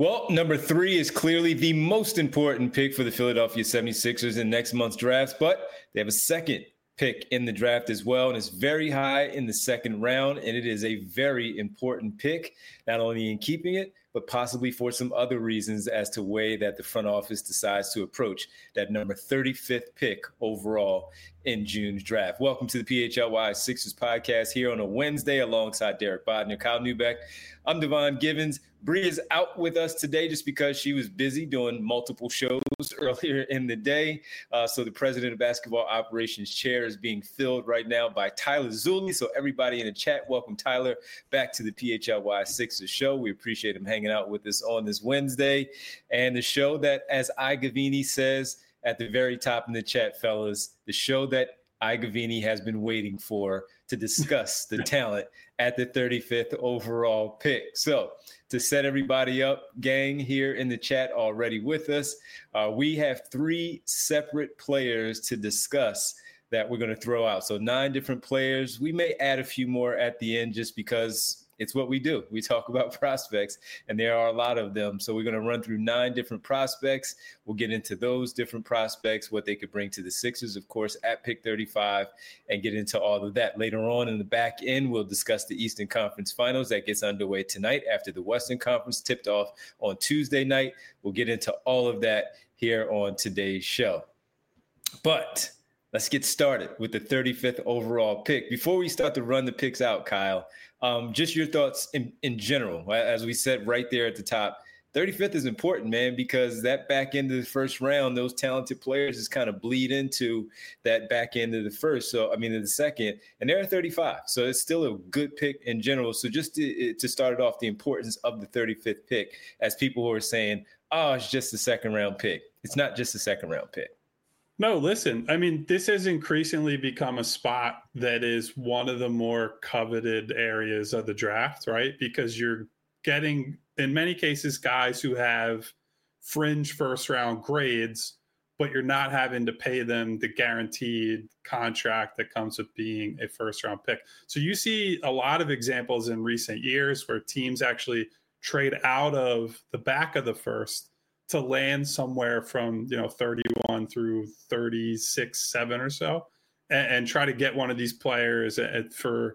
Well, number 3 is clearly the most important pick for the Philadelphia 76ers in next month's drafts, but they have a second pick in the draft as well, and it's very high in the second round, and it is a very important pick, not only in keeping it, but possibly for some other reasons as to way that the front office decides to approach that number 35th pick overall in June's draft. Welcome to the PHLY Sixers podcast here on a Wednesday alongside Derek Bodner, Kyle Neubeck. I'm Devon Givens. Bree is out with us today just because she was busy doing multiple shows earlier in the day. So the president of basketball operations chair is being filled right now by Tyler Zulli. So everybody in the chat, welcome Tyler back to the PHLY Sixers show. We appreciate him hanging out with us on this Wednesday. And the show that, as Igavini says at the very top in the chat, fellas, the show that Igavini has been waiting for to discuss the talent at the 35th overall pick. So to set everybody up, gang here in the chat already with us, we have 3 separate players to discuss that we're going to throw out. So 9 different players. We may add a few more at the end just because it's what we do. We talk about prospects, and there are a lot of them. So we're going to run through 9 different prospects. We'll get into those different prospects, what they could bring to the Sixers, of course, at pick 35, and get into all of that. Later on in the back end, we'll discuss the Eastern Conference Finals. That gets underway tonight after the Western Conference tipped off on Tuesday night. We'll get into all of that here on today's show. But let's get started with the 35th overall pick. Before we start to run the picks out, Kyle, just your thoughts in general. As we said right there at the top, 35th is important, man, because that back end of the first round, those talented players just kind of bleed into that back end of the the second, and they're at 35. So it's still a good pick in general. So just to start it off, the importance of the 35th pick, as people who are saying, oh, it's just a second round pick. It's not just a second round pick. No, listen, I mean, this has increasingly become a spot that is one of the more coveted areas of the draft, right? Because you're getting, in many cases, guys who have fringe first round grades, but you're not having to pay them the guaranteed contract that comes with being a first round pick. So you see a lot of examples in recent years where teams actually trade out of the back of the first to land somewhere from 31 through 36, 7 or so, and try to get one of these players for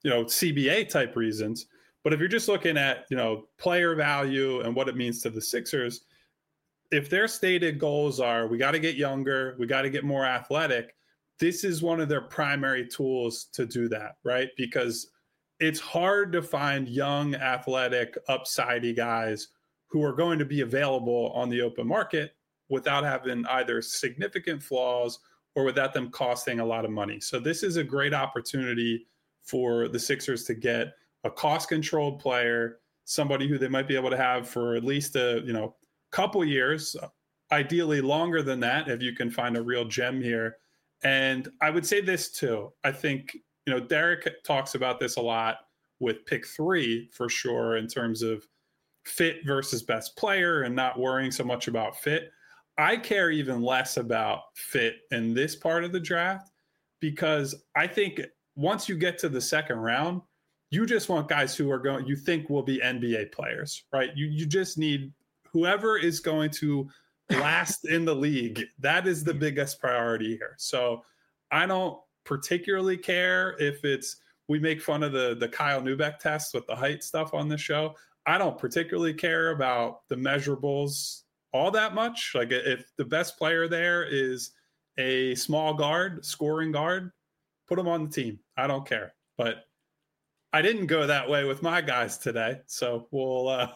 CBA type reasons. But if you're just looking at player value and what it means to the Sixers, if their stated goals are we got to get younger, we got to get more athletic, this is one of their primary tools to do that, right? Because it's hard to find young, athletic, upsidey guys who are going to be available on the open market without having either significant flaws or without them costing a lot of money. So this is a great opportunity for the Sixers to get a cost-controlled player, somebody who they might be able to have for at least a couple years, ideally longer than that if you can find a real gem here. And I would say this too. I think Derek talks about this a lot with pick 3 for sure in terms of fit versus best player and not worrying so much about fit. I care even less about fit in this part of the draft because I think once you get to the second round, you just want guys who are you think will be NBA players, right? You just need whoever is going to last in the league. That is the biggest priority here. So I don't particularly care if we make fun of the Kyle Neubeck test with the height stuff on the show. I don't particularly care about the measurables all that much. Like if the best player there is a small guard, scoring guard, put him on the team. I don't care. But I didn't go that way with my guys today. So we'll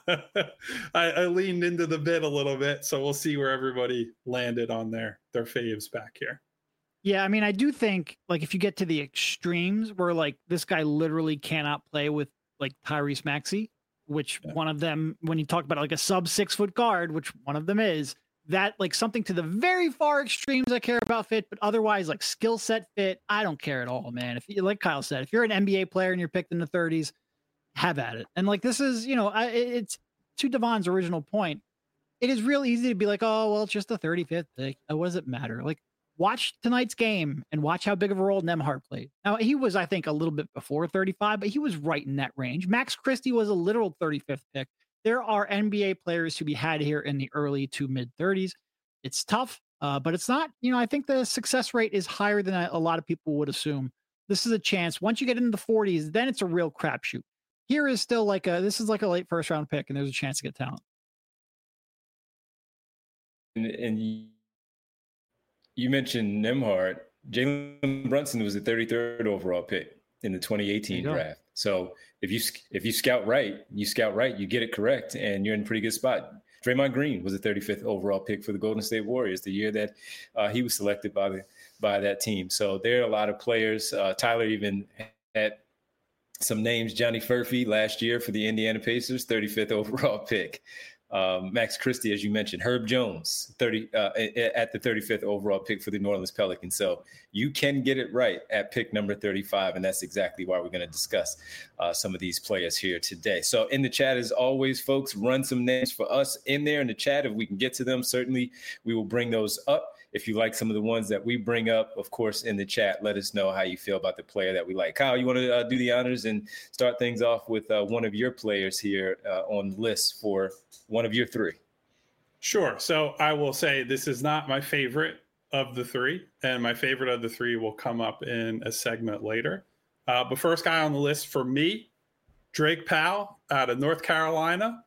I leaned into the bit a little bit. So we'll see where everybody landed on their faves back here. Yeah, I mean, I do think like if you get to the extremes where like this guy literally cannot play with like Tyrese Maxey, which one of them, when you talk about like a sub 6 foot guard, which one of them is, that like something to the very far extremes I care about fit, but otherwise like skill set fit, I don't care at all, man. If you, like Kyle said, if you're an NBA player and you're picked in the 30s, have at it. And like this is, it's to Devon's original point. It is real easy to be like, oh, well, it's just the 35th pick. What does it matter? Like, watch tonight's game and watch how big of a role Nembhard played. Now, he was, I think, a little bit before 35, but he was right in that range. Max Christie was a literal 35th pick. there are NBA players to be had here in the early to mid 30s. It's tough, but it's not, I think the success rate is higher than a lot of people would assume. This is a chance. Once you get into the 40s, then it's a real crapshoot. Here is still this is like a late first round pick, and there's a chance to get talent. And you mentioned Nembhard. Jalen Brunson was the 33rd overall pick in the 2018 draft. So if you scout right, you get it correct, and you're in a pretty good spot. Draymond Green was the 35th overall pick for the Golden State Warriors the year that he was selected by that team. So there are a lot of players. Tyler even had some names. Johnny Furphy last year for the Indiana Pacers, 35th overall pick. Max Christie, as you mentioned, Herb Jones, at the 35th overall pick for the New Orleans Pelicans. So you can get it right at pick number 35, and that's exactly why we're going to discuss some of these players here today. So in the chat, as always, folks, run some names for us in there in the chat. If we can get to them, certainly we will bring those up. If you like some of the ones that we bring up, of course, in the chat, let us know how you feel about the player that we like. Kyle, you want to do the honors and start things off with one of your players here on the list for one of your three? Sure. So I will say this is not my favorite of the three, and my favorite of the three will come up in a segment later. But first guy on the list for me, Drake Powell out of North Carolina.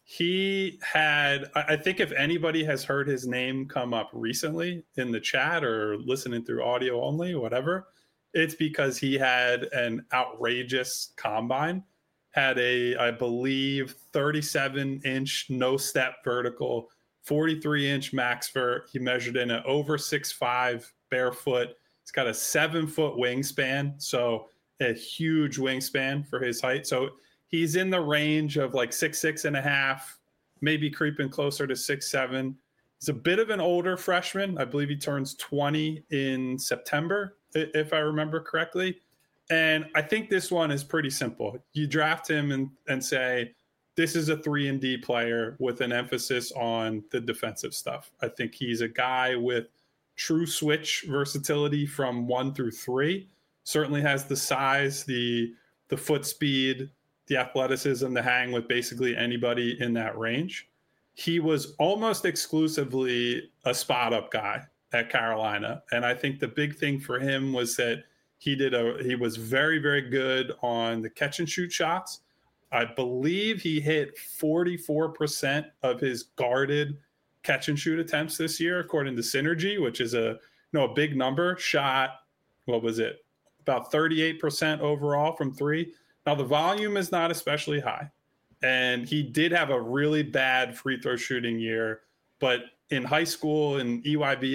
He had, I think if anybody has heard his name come up recently in the chat or listening through audio only, whatever, it's because he had an outrageous combine, had I believe, 37-inch no-step vertical, 43-inch max vert. He measured in at over 6'5", barefoot. He's got a 7-foot wingspan, so a huge wingspan for his height. So he's in the range of like 6'6.5", maybe creeping closer to 6'7". He's a bit of an older freshman. I believe he turns 20 in September, if I remember correctly. And I think this one is pretty simple. You draft him and say, this is a 3-and-D player with an emphasis on the defensive stuff. I think he's a guy with true switch versatility from 1 through 3. Certainly has the size, the foot speed, the athleticism to hang with basically anybody in that range. He was almost exclusively a spot-up guy at Carolina. And I think the big thing for him was that he was very, very good on the catch and shoot shots. I believe he hit 44% of his guarded catch and shoot attempts this year, according to Synergy, which is a big number. Shot, what was it? About 38% overall from 3. Now the volume is not especially high, and he did have a really bad free throw shooting year, but in high school and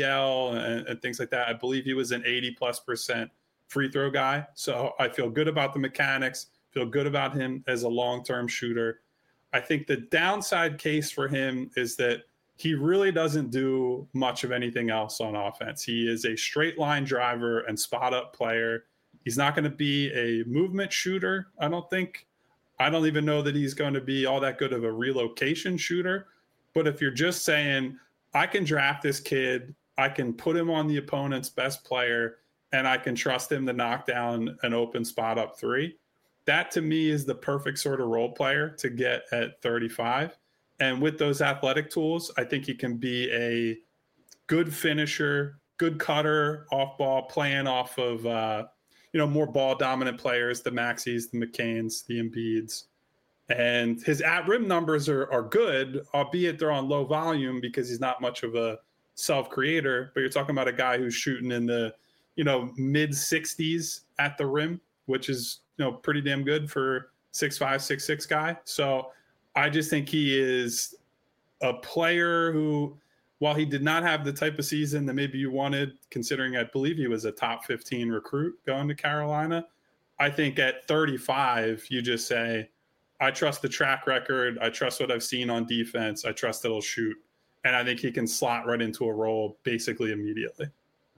EYBL and things like that, I believe he was an 80+% free throw guy. So I feel good about the mechanics, feel good about him as a long-term shooter. I think the downside case for him is that he really doesn't do much of anything else on offense. He is a straight line driver and spot up player. He's not going to be a movement shooter, I don't think. I don't even know that he's going to be all that good of a relocation shooter. But if you're just saying, I can draft this kid, I can put him on the opponent's best player, and I can trust him to knock down an open spot up 3, that to me is the perfect sort of role player to get at 35. And with those athletic tools, I think he can be a good finisher, good cutter, off ball, playing off of more ball dominant players, the Maxis, the McCains, the Embiids. And his at rim numbers are good, albeit they're on low volume because he's not much of a self creator. But you're talking about a guy who's shooting in the mid 60s at the rim, which is pretty damn good for 6'5", 6'6" guy. So I just think he is a player who, while he did not have the type of season that maybe you wanted, considering I believe he was a top 15 recruit going to Carolina, I think at 35, you just say, I trust the track record. I trust what I've seen on defense. I trust that he'll shoot. And I think he can slot right into a role basically immediately.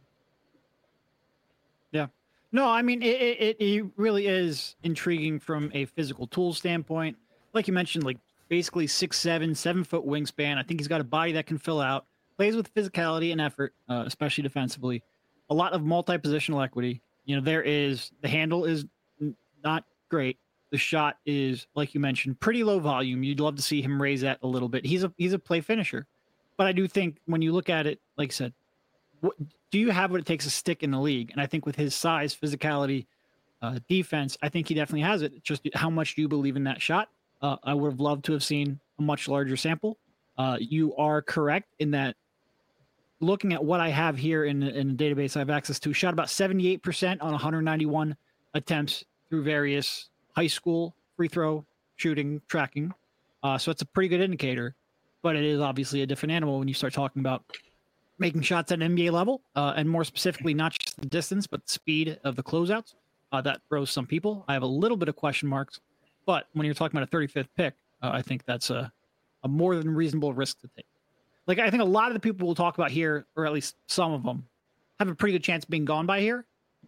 Yeah. No, I mean, it really is intriguing from a physical tool standpoint. Like you mentioned, like basically 6'7", 7-foot wingspan. I think he's got a body that can fill out, plays with physicality and effort, especially defensively. A lot of multi-positional equity. The handle is not great. the shot is, like you mentioned, pretty low volume. You'd love to see him raise that a little bit. He's a play finisher, but I do think when you look at it, like I said, do you have what it takes to stick in the league? And I think with his size, physicality, defense, I think he definitely has it. Just how much do you believe in that shot? I would have loved to have seen a much larger sample. You are correct in that. Looking at what I have here in the database I have access to, shot about 78% on 191 attempts through various high school free throw shooting tracking. So it's a pretty good indicator, but it is obviously a different animal when you start talking about making shots at an NBA level, and more specifically, not just the distance, but the speed of the closeouts. That throws some people. I have a little bit of question marks, but when you're talking about a 35th pick, I think that's a more than reasonable risk to take. Like, I think a lot of the people we'll talk about here, or at least some of them, have a pretty good chance of being gone by here.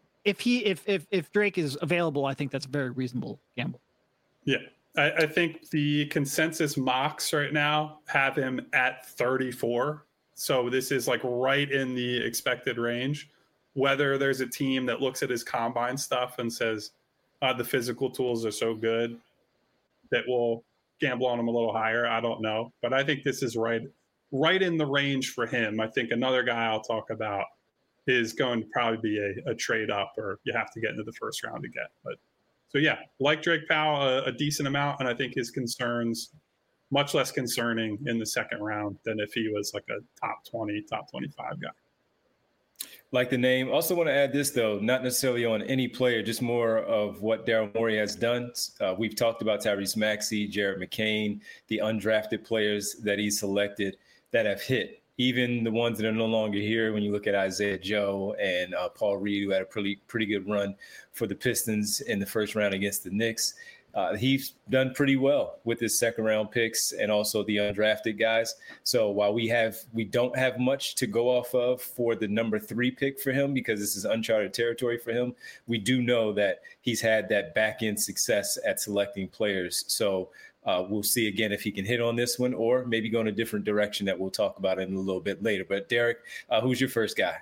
If Drake is available, I think that's a very reasonable gamble. Yeah. I think the consensus mocks right now have him at 34. So this is like right in the expected range. Whether there's a team that looks at his combine stuff and says the physical tools are so good that will gamble on him a little higher, I don't know. But I think this is right in the range for him. I think another guy I'll talk about is going to probably be a trade up, or you have to get into the first round to get. But so yeah, like Drake Powell, a decent amount, and I think his concerns much less concerning in the second round than if he was like a top 20, top 25 guy. Like the name. Also want to add this, though, not necessarily on any player, just more of what Daryl Morey has done. We've talked about Tyrese Maxey, Jared McCain, the undrafted players that he selected that have hit, even the ones that are no longer here. When you look at Isaiah Joe and Paul Reed, who had a pretty good run for the Pistons in the first round against the Knicks. He's done pretty well with his second round picks and also the undrafted guys. So while we don't have much to go off of for the number 3 pick for him, because this is uncharted territory for him, we do know that he's had that back end success at selecting players. So we'll see again if he can hit on this one, or maybe go in a different direction that we'll talk about in a little bit later. But Derek, who's your first guy?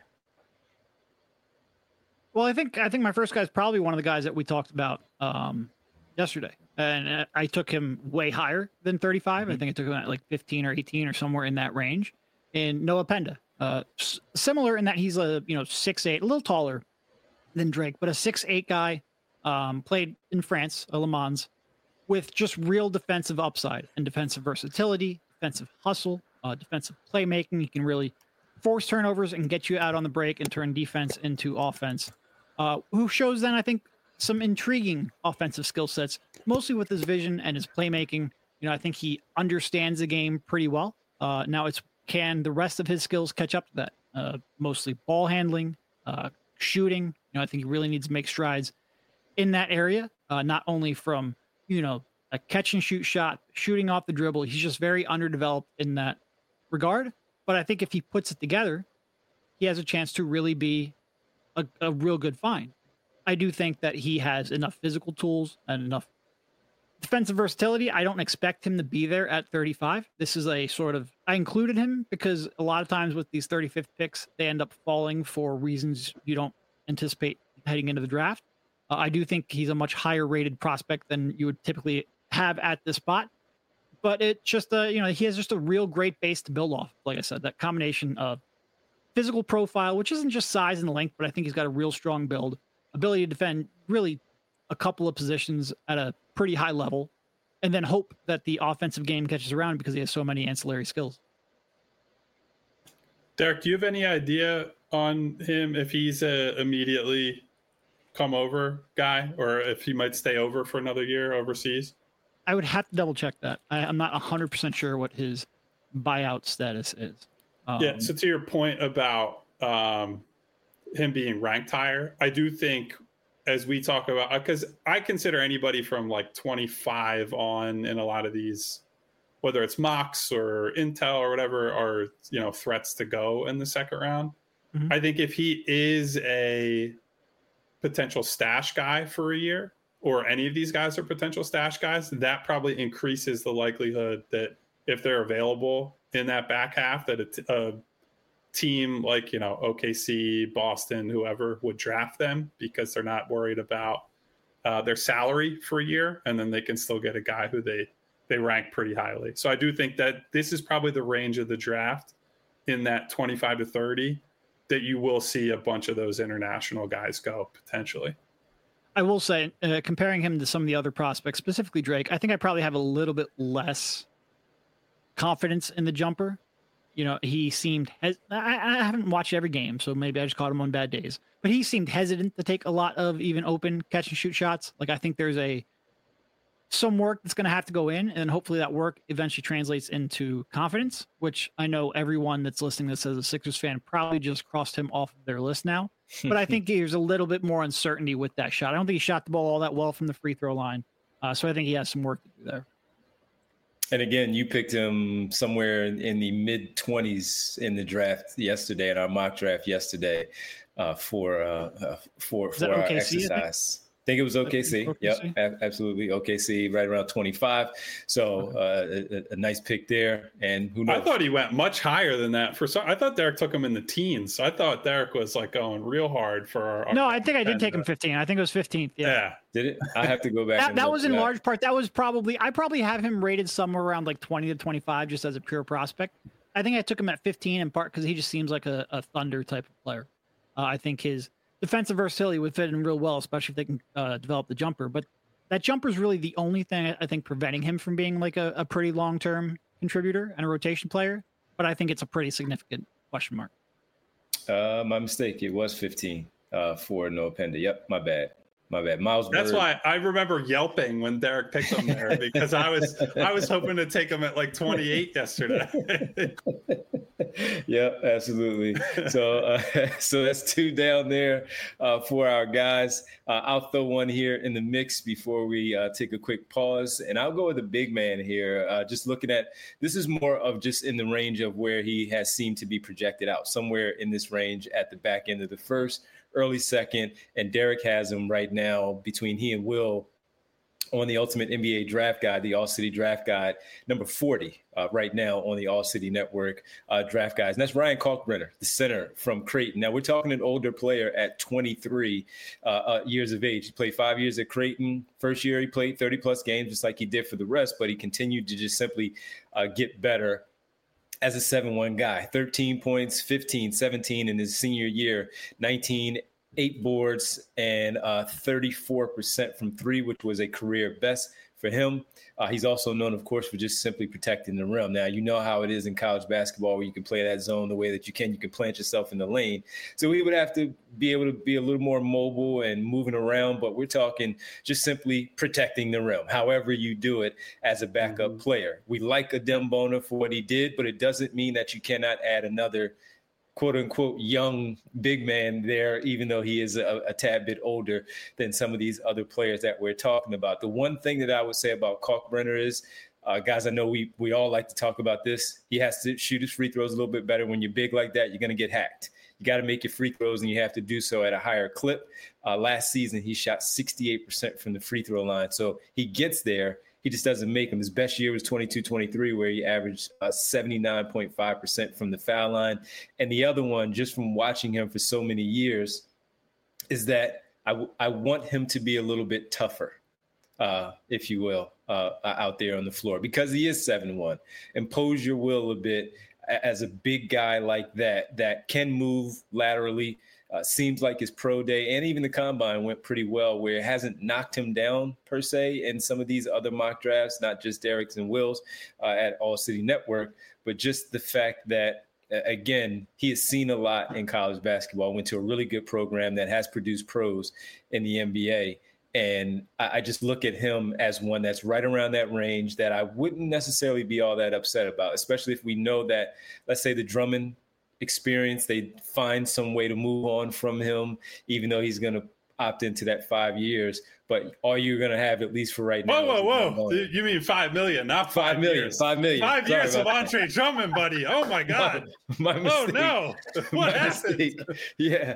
Well, I think my first guy is probably one of the guys that we talked about yesterday, and I took him way higher than 35. Mm-hmm. I think I took him at like 15 or 18 or somewhere in that range. And Noah Penda, similar in that he's a 6'8", a little taller than Drake, but a 6'8" guy, played in France, Le Mans, with just real defensive upside and defensive versatility, defensive hustle, defensive playmaking. He can really force turnovers and get you out on the break and turn defense into offense. Who shows then, I think, some intriguing offensive skill sets, mostly with his vision and his playmaking. I think he understands the game pretty well. Now can the rest of his skills catch up to that? Mostly ball handling, shooting. I think he really needs to make strides in that area, not only from, a catch and shoot shot, shooting off the dribble. He's just very underdeveloped in that regard. But I think if he puts it together, he has a chance to really be a real good find. I do think that he has enough physical tools and enough defensive versatility. I don't expect him to be there at 35. This is a sort of, I included him because a lot of times with these 35th picks, they end up falling for reasons you don't anticipate heading into the draft. I do think he's a much higher rated prospect than you would typically have at this spot. But it just, he has just a real great base to build off. Like I said, that combination of physical profile, which isn't just size and length, but I think he's got a real strong build, ability to defend really a couple of positions at a pretty high level, and then hope that the offensive game catches around because he has so many ancillary skills. Derek, do you have any idea on him if he's immediately come over guy, or if he might stay over for another year overseas? I would have to double check that. I'm not 100% sure what his buyout status is. So to your point about him being ranked higher, I do think, as we talk about, because I consider anybody from like 25 on in a lot of these, whether it's mocks or intel or whatever, are threats to go in the second round. Mm-hmm. I think if he is a potential stash guy for a year, or any of these guys are potential stash guys, that probably increases the likelihood that if they're available in that back half, that a team like, OKC, Boston, whoever would draft them because they're not worried about their salary for a year, and then they can still get a guy who they rank pretty highly. So I do think that this is probably the range of the draft in that 25 to 30 that you will see a bunch of those international guys go potentially. I will say, comparing him to some of the other prospects, specifically Drake, I think I probably have a little bit less confidence in the jumper. You know, he seemed, I haven't watched every game, so maybe I just caught him on bad days, but he seemed hesitant to take a lot of even open catch and shoot shots. Like, I think there's some work that's going to have to go in, and hopefully that work eventually translates into confidence, which I know everyone that's listening that says a Sixers fan probably just crossed him off of their list now. But I think there's a little bit more uncertainty with that shot. I don't think he shot the ball all that well from the free throw line. So I think he has some work to do there. And again, you picked him somewhere in the mid-20s in the draft yesterday, in our mock draft yesterday, for our exercise. I think it was OKC. Yep, absolutely. OKC right around 25. So a nice pick there. And who knows? I thought he went much higher than that. I thought Derek took him in the teens. So I thought Derek was like going real hard for our. No, I think I did take him 15. I think it was 15th. Yeah. Did it? I have to go back. that was in large part. That was I probably have him rated somewhere around like 20 to 25 just as a pure prospect. I think I took him at 15 in part because he just seems like a Thunder type of player. I think his defensive versatility would fit in real well, especially if they can develop the jumper. But that jumper is really the only thing I think preventing him from being like a pretty long-term contributor and a rotation player. But I think it's a pretty significant question mark. My mistake. It was 15 for Noah Penda. Yep, my bad. Miles. That's why I remember yelping when Derek picked him there because I was hoping to take him at like 28 yesterday. Yeah, absolutely. So that's two down there for our guys. I'll throw one here in the mix before we take a quick pause, and I'll go with a big man here. Just looking at this is more of just in the range of where he has seemed to be projected out, somewhere in this range at the back end of the first, early second, and Derek has him right now between he and Will on the Ultimate NBA Draft Guide, the All City Draft Guide, number 40 right now on the All City Network Draft Guides. And that's Ryan Kalkbrenner, the center from Creighton. Now, we're talking an older player at 23 years of age. He played 5 years at Creighton. First year, he played 30-plus games, just like he did for the rest, but he continued to just simply get better as a 7-1 guy. 13 points, 15, 17 in his senior year, 19, 8 boards, and 34% from three, which was a career best for him. He's also known, of course, for just simply protecting the rim. Now, you know how it is in college basketball where you can play that zone the way that you can. You can plant yourself in the lane. So he would have to be able to be a little more mobile and moving around, but we're talking just simply protecting the rim, however you do it as a backup player. We like Adem Bona for what he did, but it doesn't mean that you cannot add another quote unquote young big man there, even though he is a tad bit older than some of these other players that we're talking about. The one thing that I would say about Kalkbrenner is, guys, I know we all like to talk about this. He has to shoot his free throws a little bit better. When you're big like that, you're going to get hacked. You got to make your free throws, and you have to do so at a higher clip. Last season, he shot 68% from the free throw line. So he gets there. He just doesn't make them. His best year was 22-23, where he averaged 79.5% from the foul line. And the other one, just from watching him for so many years, is that I want him to be a little bit tougher, if you will, out there on the floor, because he is 7-1. Impose your will a bit as a big guy like that can move laterally. Seems like his pro day and even the combine went pretty well, where it hasn't knocked him down per se in some of these other mock drafts, not just Derek's and Will's at All City Network, but just the fact that, again, he has seen a lot in college basketball, went to a really good program that has produced pros in the NBA. And I just look at him as one that's right around that range that I wouldn't necessarily be all that upset about, especially if we know that, let's say, the Drummond experience, they find some way to move on from him, even though he's going to opt into that 5 years. But all you're going to have, at least for right now. Whoa. You mean 5 million, not 5 million. years. 5 million. 5 years of Andre Drummond, buddy. Oh, my God. My mistake. Oh, no. What happened? Yeah.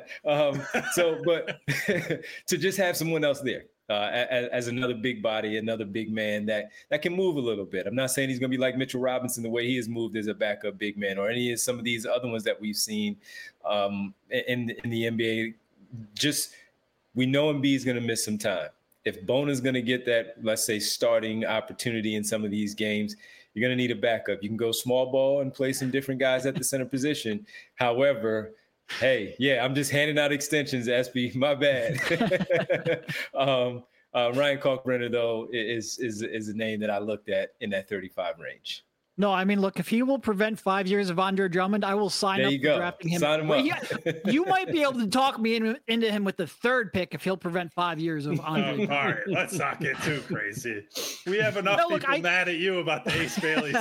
But to just have someone else there. As another big body, another big man that can move a little bit. I'm not saying he's going to be like Mitchell Robinson, the way he has moved as a backup big man, or any of some of these other ones that we've seen in the NBA. Just, we know Embiid is going to miss some time. if Bona's going to get that, let's say, starting opportunity in some of these games, you're going to need a backup. You can go small ball and play some different guys at the center position. However, hey, yeah, I'm just handing out extensions, SB. My bad. Ryan Kalkbrenner, though, is a name that I looked at in that 35 range. No, I mean, look, if he will prevent 5 years of Andre Drummond, I will sign up for drafting him. Sign him up. Yeah, you might be able to talk me into him with the third pick if he'll prevent 5 years of Andre. All right, let's not get too crazy. We have enough people mad at you about the Ace Bailey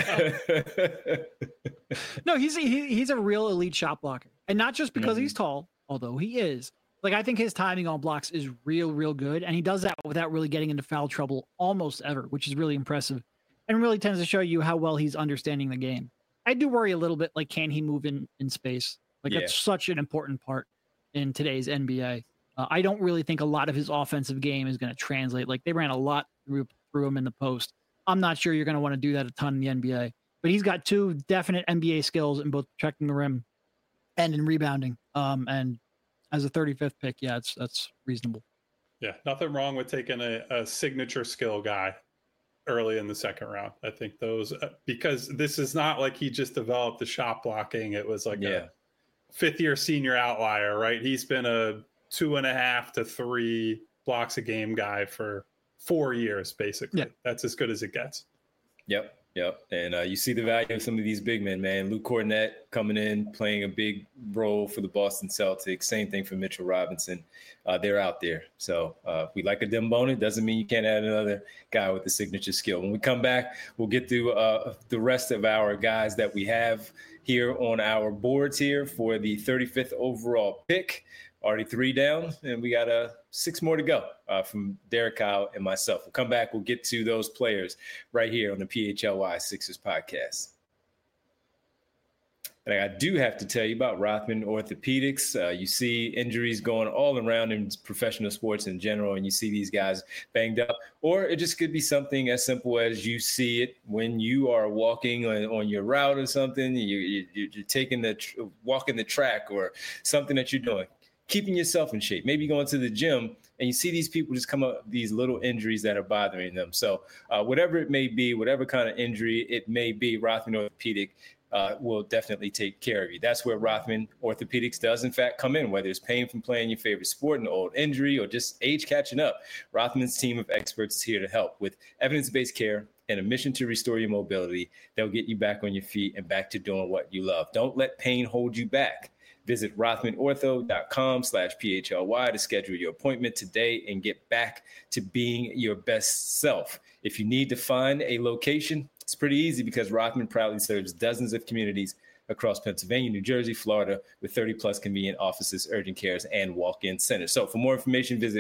stuff. No, he's a real elite shot blocker, and not just because he's tall, although he is. Like, I think his timing on blocks is real good, and he does that without really getting into foul trouble almost ever, which is really impressive. And really tends to show you how well he's understanding the game. I do worry a little bit, like, can he move in space? Like, that's such an important part in today's NBA. I don't really think a lot of his offensive game is going to translate. Like, they ran a lot through him in the post. I'm not sure you're going to want to do that a ton in the NBA. But he's got two definite NBA skills in both protecting the rim and in rebounding. And as a 35th pick, yeah, that's reasonable. Yeah, nothing wrong with taking a signature skill guy early in the second round. I think those, because this is not like he just developed the shot blocking. It was like a fifth-year senior outlier, right? He's been a 2.5 to 3 blocks a game guy for 4 years, basically. Yeah. That's as good as it gets. Yep. And you see the value of some of these big men, man. Luke Kornet coming in, playing a big role for the Boston Celtics. Same thing for Mitchell Robinson. They're out there. So we like a Dembona. It doesn't mean you can't add another guy with the signature skill. When we come back, we'll get through the rest of our guys that we have here on our boards here for the 35th overall pick. Already 3 down, and we got 6 more to go from Derek Kyle and myself. We'll come back. We'll get to those players right here on the PHLY Sixers podcast. And I do have to tell you about Rothman Orthopedics. You see injuries going all around in professional sports in general, and you see these guys banged up. Or it just could be something as simple as you see it when you are walking on your route or something. You're taking walking the track or something that you're doing. Keeping yourself in shape, maybe going to the gym, and you see these people just come up with these little injuries that are bothering them. So whatever it may be, whatever kind of injury it may be, Rothman Orthopedic will definitely take care of you. That's where Rothman Orthopedics does, in fact, come in, whether it's pain from playing your favorite sport, an old injury, or just age catching up. Rothman's team of experts is here to help with evidence-based care and a mission to restore your mobility that will get you back on your feet and back to doing what you love. Don't let pain hold you back. Visit rothmanortho.com/PHLY to schedule your appointment today and get back to being your best self. If you need to find a location, it's pretty easy because Rothman proudly serves dozens of communities across Pennsylvania, New Jersey, Florida, with 30-plus convenient offices, urgent cares, and walk-in centers. So for more information, visit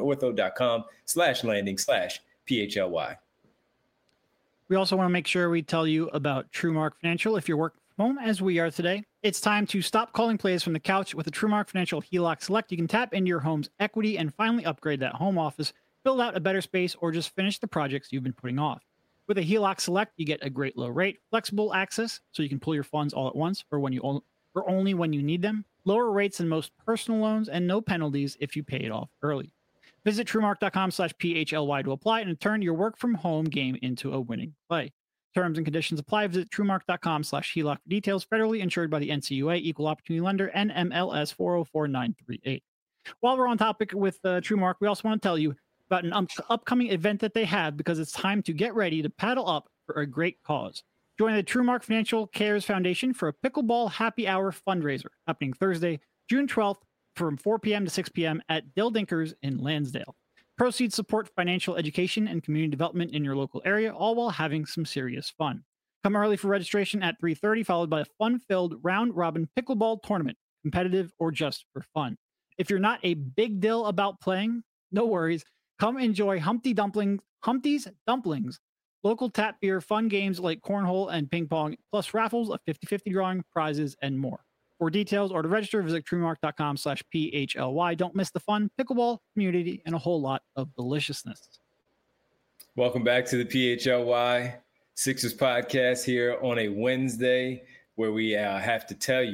rothmanortho.com/landing/PHLY. We also want to make sure we tell you about TrueMark Financial. If you're working from home, as we are today, it's time to stop calling plays from the couch. With a TrueMark Financial HELOC Select, you can tap into your home's equity and finally upgrade that home office, build out a better space, or just finish the projects you've been putting off. With a HELOC Select, you get a great low rate, flexible access, so you can pull your funds all at once or only when you need them, lower rates than most personal loans, and no penalties if you pay it off early. Visit TrueMark.com/PHLY to apply and turn your work from home game into a winning play. Terms and conditions apply. Visit TrueMark.com/HELOC for details. Federally insured by the NCUA, Equal Opportunity Lender, NMLS 404938. While we're on topic with TrueMark, we also want to tell you about an upcoming event that they have, because it's time to get ready to paddle up for a great cause. Join the TrueMark Financial Cares Foundation for a pickleball happy hour fundraiser happening Thursday, June 12th from 4 p.m. to 6 p.m. at Dill Dinkers in Lansdale. Proceeds support financial education and community development in your local area, all while having some serious fun. Come early for registration at 3:30, followed by a fun-filled round-robin pickleball tournament, competitive or just for fun. If you're not a big deal about playing, no worries. Come enjoy Humpty's Dumplings, local tap beer, fun games like cornhole and ping pong, plus raffles, a 50-50 drawing, prizes, and more. For details or to register, visit TrueMark.com/PHLY. Don't miss the fun, pickleball, community, and a whole lot of deliciousness. Welcome back to the PHLY Sixers podcast here on a Wednesday, where we have to tell you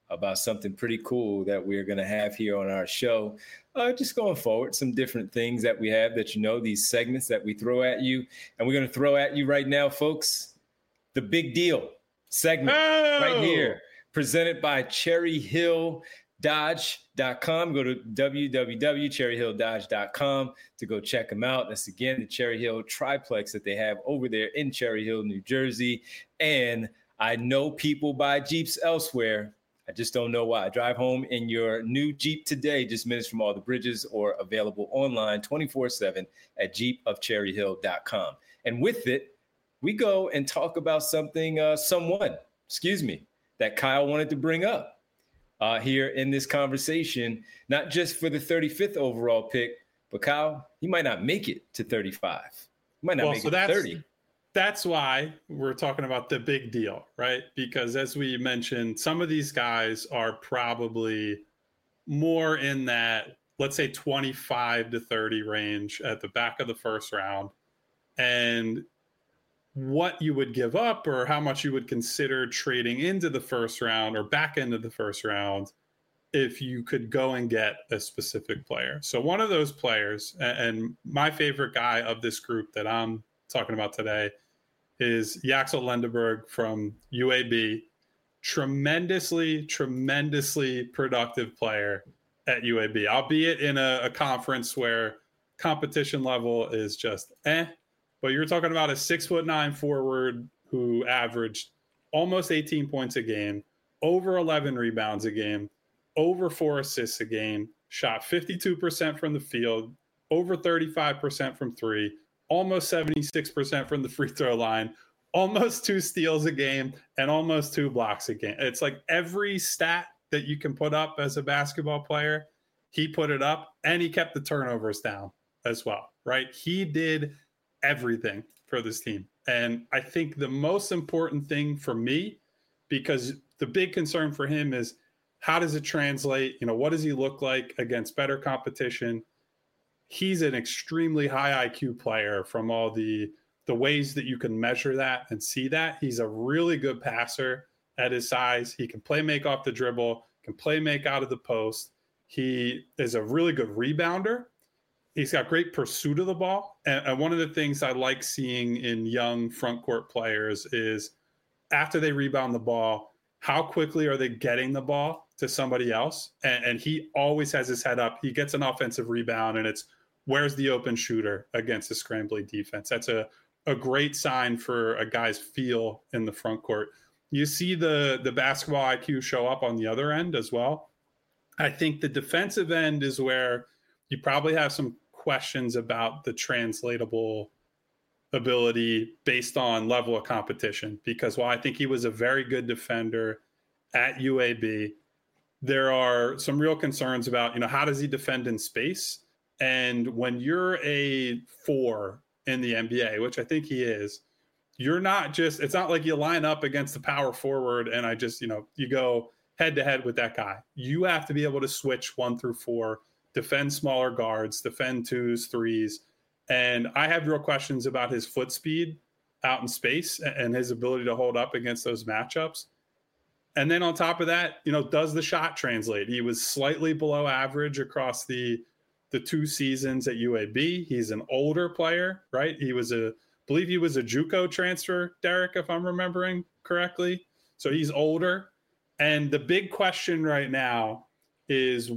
about something pretty cool that we're going to have here on our show. Just going forward, some different things that we have that, these segments that we throw at you. And we're going to throw at you right now, folks, the Big Deal segment right here, presented by Cherry Hill Dodge.com. Go to www.cherryhilldodge.com to go check them out. That's, again, the Cherry Hill triplex that they have over there in Cherry Hill, New Jersey. And I know people buy Jeeps elsewhere. I just don't know why. Drive home in your new Jeep today, just minutes from all the bridges, or available online 24/7 at jeepofcherryhill.com. And with it, we go and talk about something, that Kyle wanted to bring up here in this conversation, not just for the 35th overall pick, but Kyle, he might not make it to 35. He might not make it to 30. That's why we're talking about the big deal, right? Because as we mentioned, some of these guys are probably more in that, let's say, 25 to 30 range at the back of the first round. And what you would give up, or how much you would consider trading into the first round or back into the first round if you could go and get a specific player. So one of those players, and my favorite guy of this group that I'm talking about today, is Yaxel Lendeberg from UAB. Tremendously productive player at UAB, albeit in a conference where competition level is just But you're talking about a 6'9" forward who averaged almost 18 points a game, over 11 rebounds a game, over 4 assists a game, shot 52% from the field, over 35% from three, almost 76% from the free throw line, almost 2 steals a game, and almost 2 blocks a game. It's like every stat that you can put up as a basketball player, he put it up, and he kept the turnovers down as well, right? He did everything for this team. And I think the most important thing for me, because the big concern for him is, how does it translate? What does he look like against better competition? He's an extremely high IQ player from all the ways that you can measure that and see that. He's a really good passer at his size. He can play make off the dribble, can play make out of the post. He is a really good rebounder. He's got great pursuit of the ball. And one of the things I like seeing in young front court players is, after they rebound the ball, how quickly are they getting the ball to somebody else? And he always has his head up. He gets an offensive rebound, and it's, where's the open shooter against a scrambling defense? That's a great sign for a guy's feel in the front court. You see the basketball IQ show up on the other end as well. I think the defensive end is where you probably have some questions about the translatable ability based on level of competition, because while I think he was a very good defender at UAB, there are some real concerns about, how does he defend in space? And when you're a 4 in the NBA, which I think he is, you're not just, it's not like you line up against the power forward and you go head to head with that guy. You have to be able to switch 1 through 4, defend smaller guards, defend 2s, 3s. And I have real questions about his foot speed out in space and his ability to hold up against those matchups. And then on top of that, does the shot translate? He was slightly below average across the 2 seasons at UAB. He's an older player, right? I believe he was a JUCO transfer, Derek, if I'm remembering correctly. So he's older. And the big question right now is,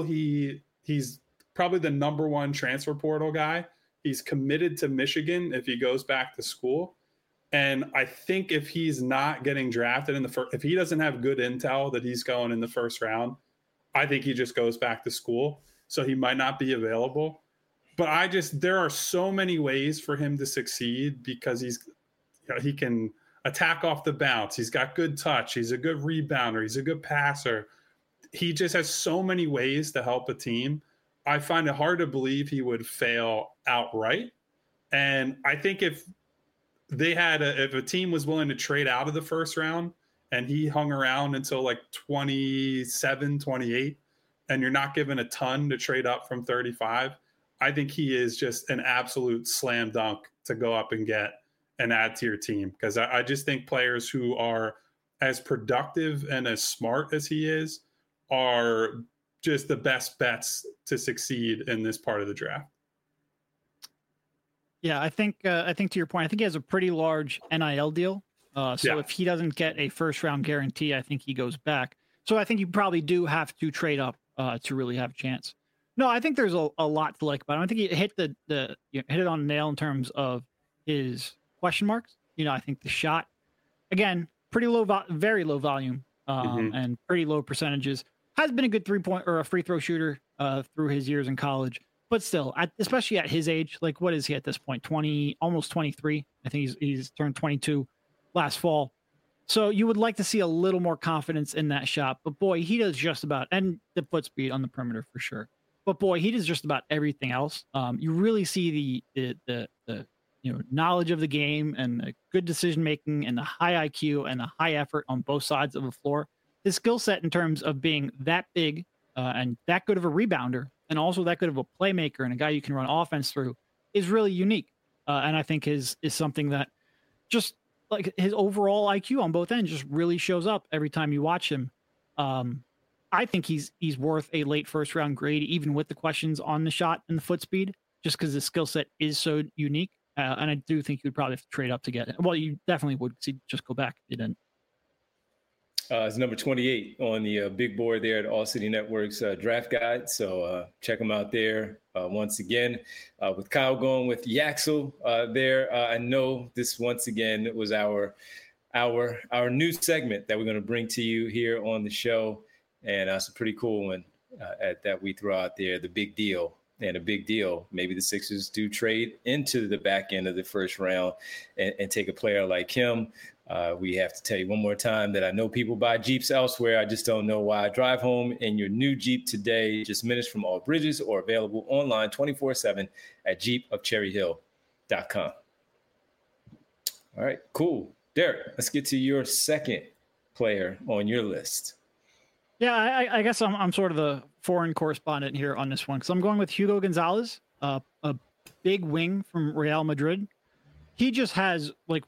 he's probably the number 1 transfer portal guy. He's committed to Michigan if he goes back to school. And I think if he's not getting drafted in the first, if he doesn't have good intel that he's going in the first round, I think he just goes back to school. So he might not be available. But there are so many ways for him to succeed, because he can attack off the bounce. He's got good touch. He's a good rebounder. He's a good passer. He just has so many ways to help a team. I find it hard to believe he would fail outright. And I think if a team was willing to trade out of the first round and he hung around until like 27, 28, and you're not given a ton to trade up from 35, I think he is just an absolute slam dunk to go up and get and add to your team. Because I just think players who are as productive and as smart as he is, are just the best bets to succeed in this part of the draft. Yeah, I think to your point, I think he has a pretty large NIL deal. So if he doesn't get a first round guarantee, I think he goes back. So I think you probably do have to trade up to really have a chance. No, I think there's a lot to like about him. I think he hit hit it on the nail in terms of his question marks. I think the shot, again, pretty low, very low volume, and pretty low percentages. Has been a good 3-point or a free throw shooter through his years in college. But still, especially at his age, like what is he at this point? 20, almost 23. I think he's turned 22 last fall. So you would like to see a little more confidence in that shot. But boy, he does just about, and the foot speed on the perimeter for sure. But boy, he does just about everything else. You really see the knowledge of the game and the good decision making and the high IQ and the high effort on both sides of the floor. His skill set in terms of being that big and that good of a rebounder, and also that good of a playmaker and a guy you can run offense through, is really unique. And I think is something that just like his overall IQ on both ends just really shows up every time you watch him. I think he's worth a late first round grade, even with the questions on the shot and the foot speed, just because his skill set is so unique. And I do think you would probably have to trade up to get it. Well, you definitely would just go back if you didn't. It's number 28 on the big board there at All City Network's draft guide. So check them out there. Once again, with Kyle going with Yaxel there. I know this once again was our new segment that we're going to bring to you here on the show. And it's a pretty cool one that we throw out there, the big deal. And a big deal, maybe the Sixers do trade into the back end of the first round and take a player like him. We have to tell you one more time that I know people buy Jeeps elsewhere. I just don't know why. Drive home in your new Jeep today, just minutes from all bridges, or available online 24/7 at jeepofcherryhill.com. All right, cool. Derek, let's get to your second player on your list. Yeah, I guess I'm sort of the foreign correspondent here on this one, because I'm going with Hugo Gonzalez, a big wing from Real Madrid. He just has, like,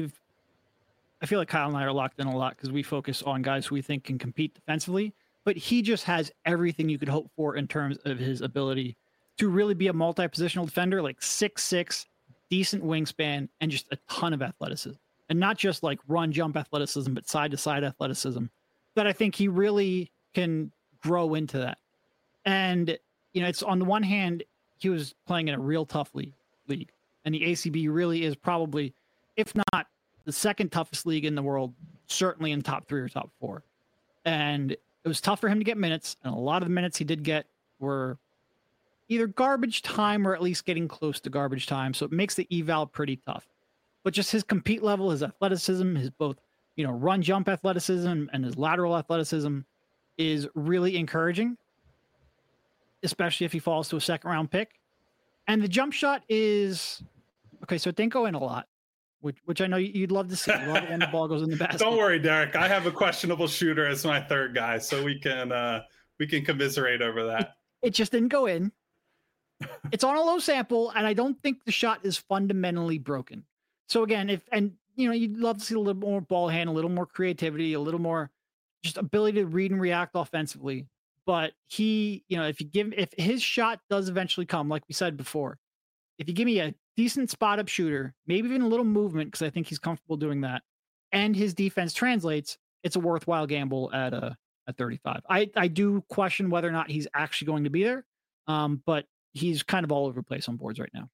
I feel like Kyle and I are locked in a lot because we focus on guys who we think can compete defensively, but he just has everything you could hope for in terms of his ability to really be a multi-positional defender, like 6'6", decent wingspan, and just a ton of athleticism. And not just like run, jump athleticism, but side-to-side athleticism. That I think he really can grow into that. And, it's on the one hand, he was playing in a real tough league. And the ACB really is probably, if not the second toughest league in the world, certainly in top 3 or top 4. And it was tough for him to get minutes. And a lot of the minutes he did get were either garbage time or at least getting close to garbage time. So it makes the eval pretty tough. But just his compete level, his athleticism, his both run jump athleticism and his lateral athleticism is really encouraging, especially if he falls to a second round pick. And the jump shot is okay. So it didn't go in a lot, which I know you'd love to see. You love it when the ball goes in the basket. Don't worry, Derek. I have a questionable shooter as my third guy, so we can commiserate over that. It just didn't go in. It's on a low sample, and I don't think the shot is fundamentally broken. So again, you'd love to see a little more ball hand, a little more creativity, a little more just ability to read and react offensively. But he, if his shot does eventually come, like we said before, if you give me a decent spot up shooter, maybe even a little movement, because I think he's comfortable doing that, and his defense translates, it's a worthwhile gamble at 35. I do question whether or not he's actually going to be there, but he's kind of all over the place on boards right now.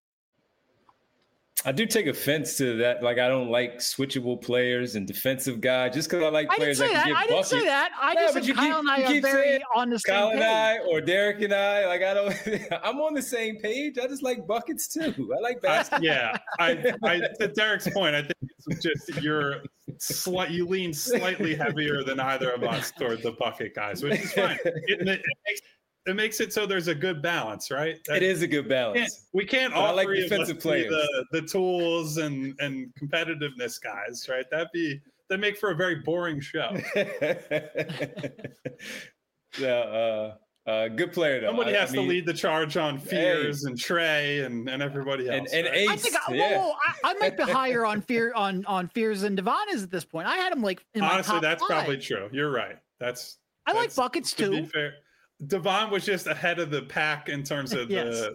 I do take offense to that. Like, I don't like switchable players and defensive guys just because I like players that can get buckets. I didn't say that. I just said Kyle and I are very on the same page. Kyle and I, or Derek and I, like, I'm on the same page. I just like buckets too. I like basketball. Yeah. To Derek's point, I think it's just you lean slightly heavier than either of us toward the bucket guys, which is fine. It makes it so there's a good balance, right? It is a good balance. We can't all like three defensive of us players. Be the tools and competitiveness guys, right? That make for a very boring show. Yeah. Good player, though. Somebody has to lead the charge on Fears and Trey and everybody else. And right? Ace. I think I might be higher on Fears than Devon is at this point. I had him like in my honestly, top that's 5. probably true. You're right. I like buckets to too. Be fair. Devon was just ahead of the pack in terms of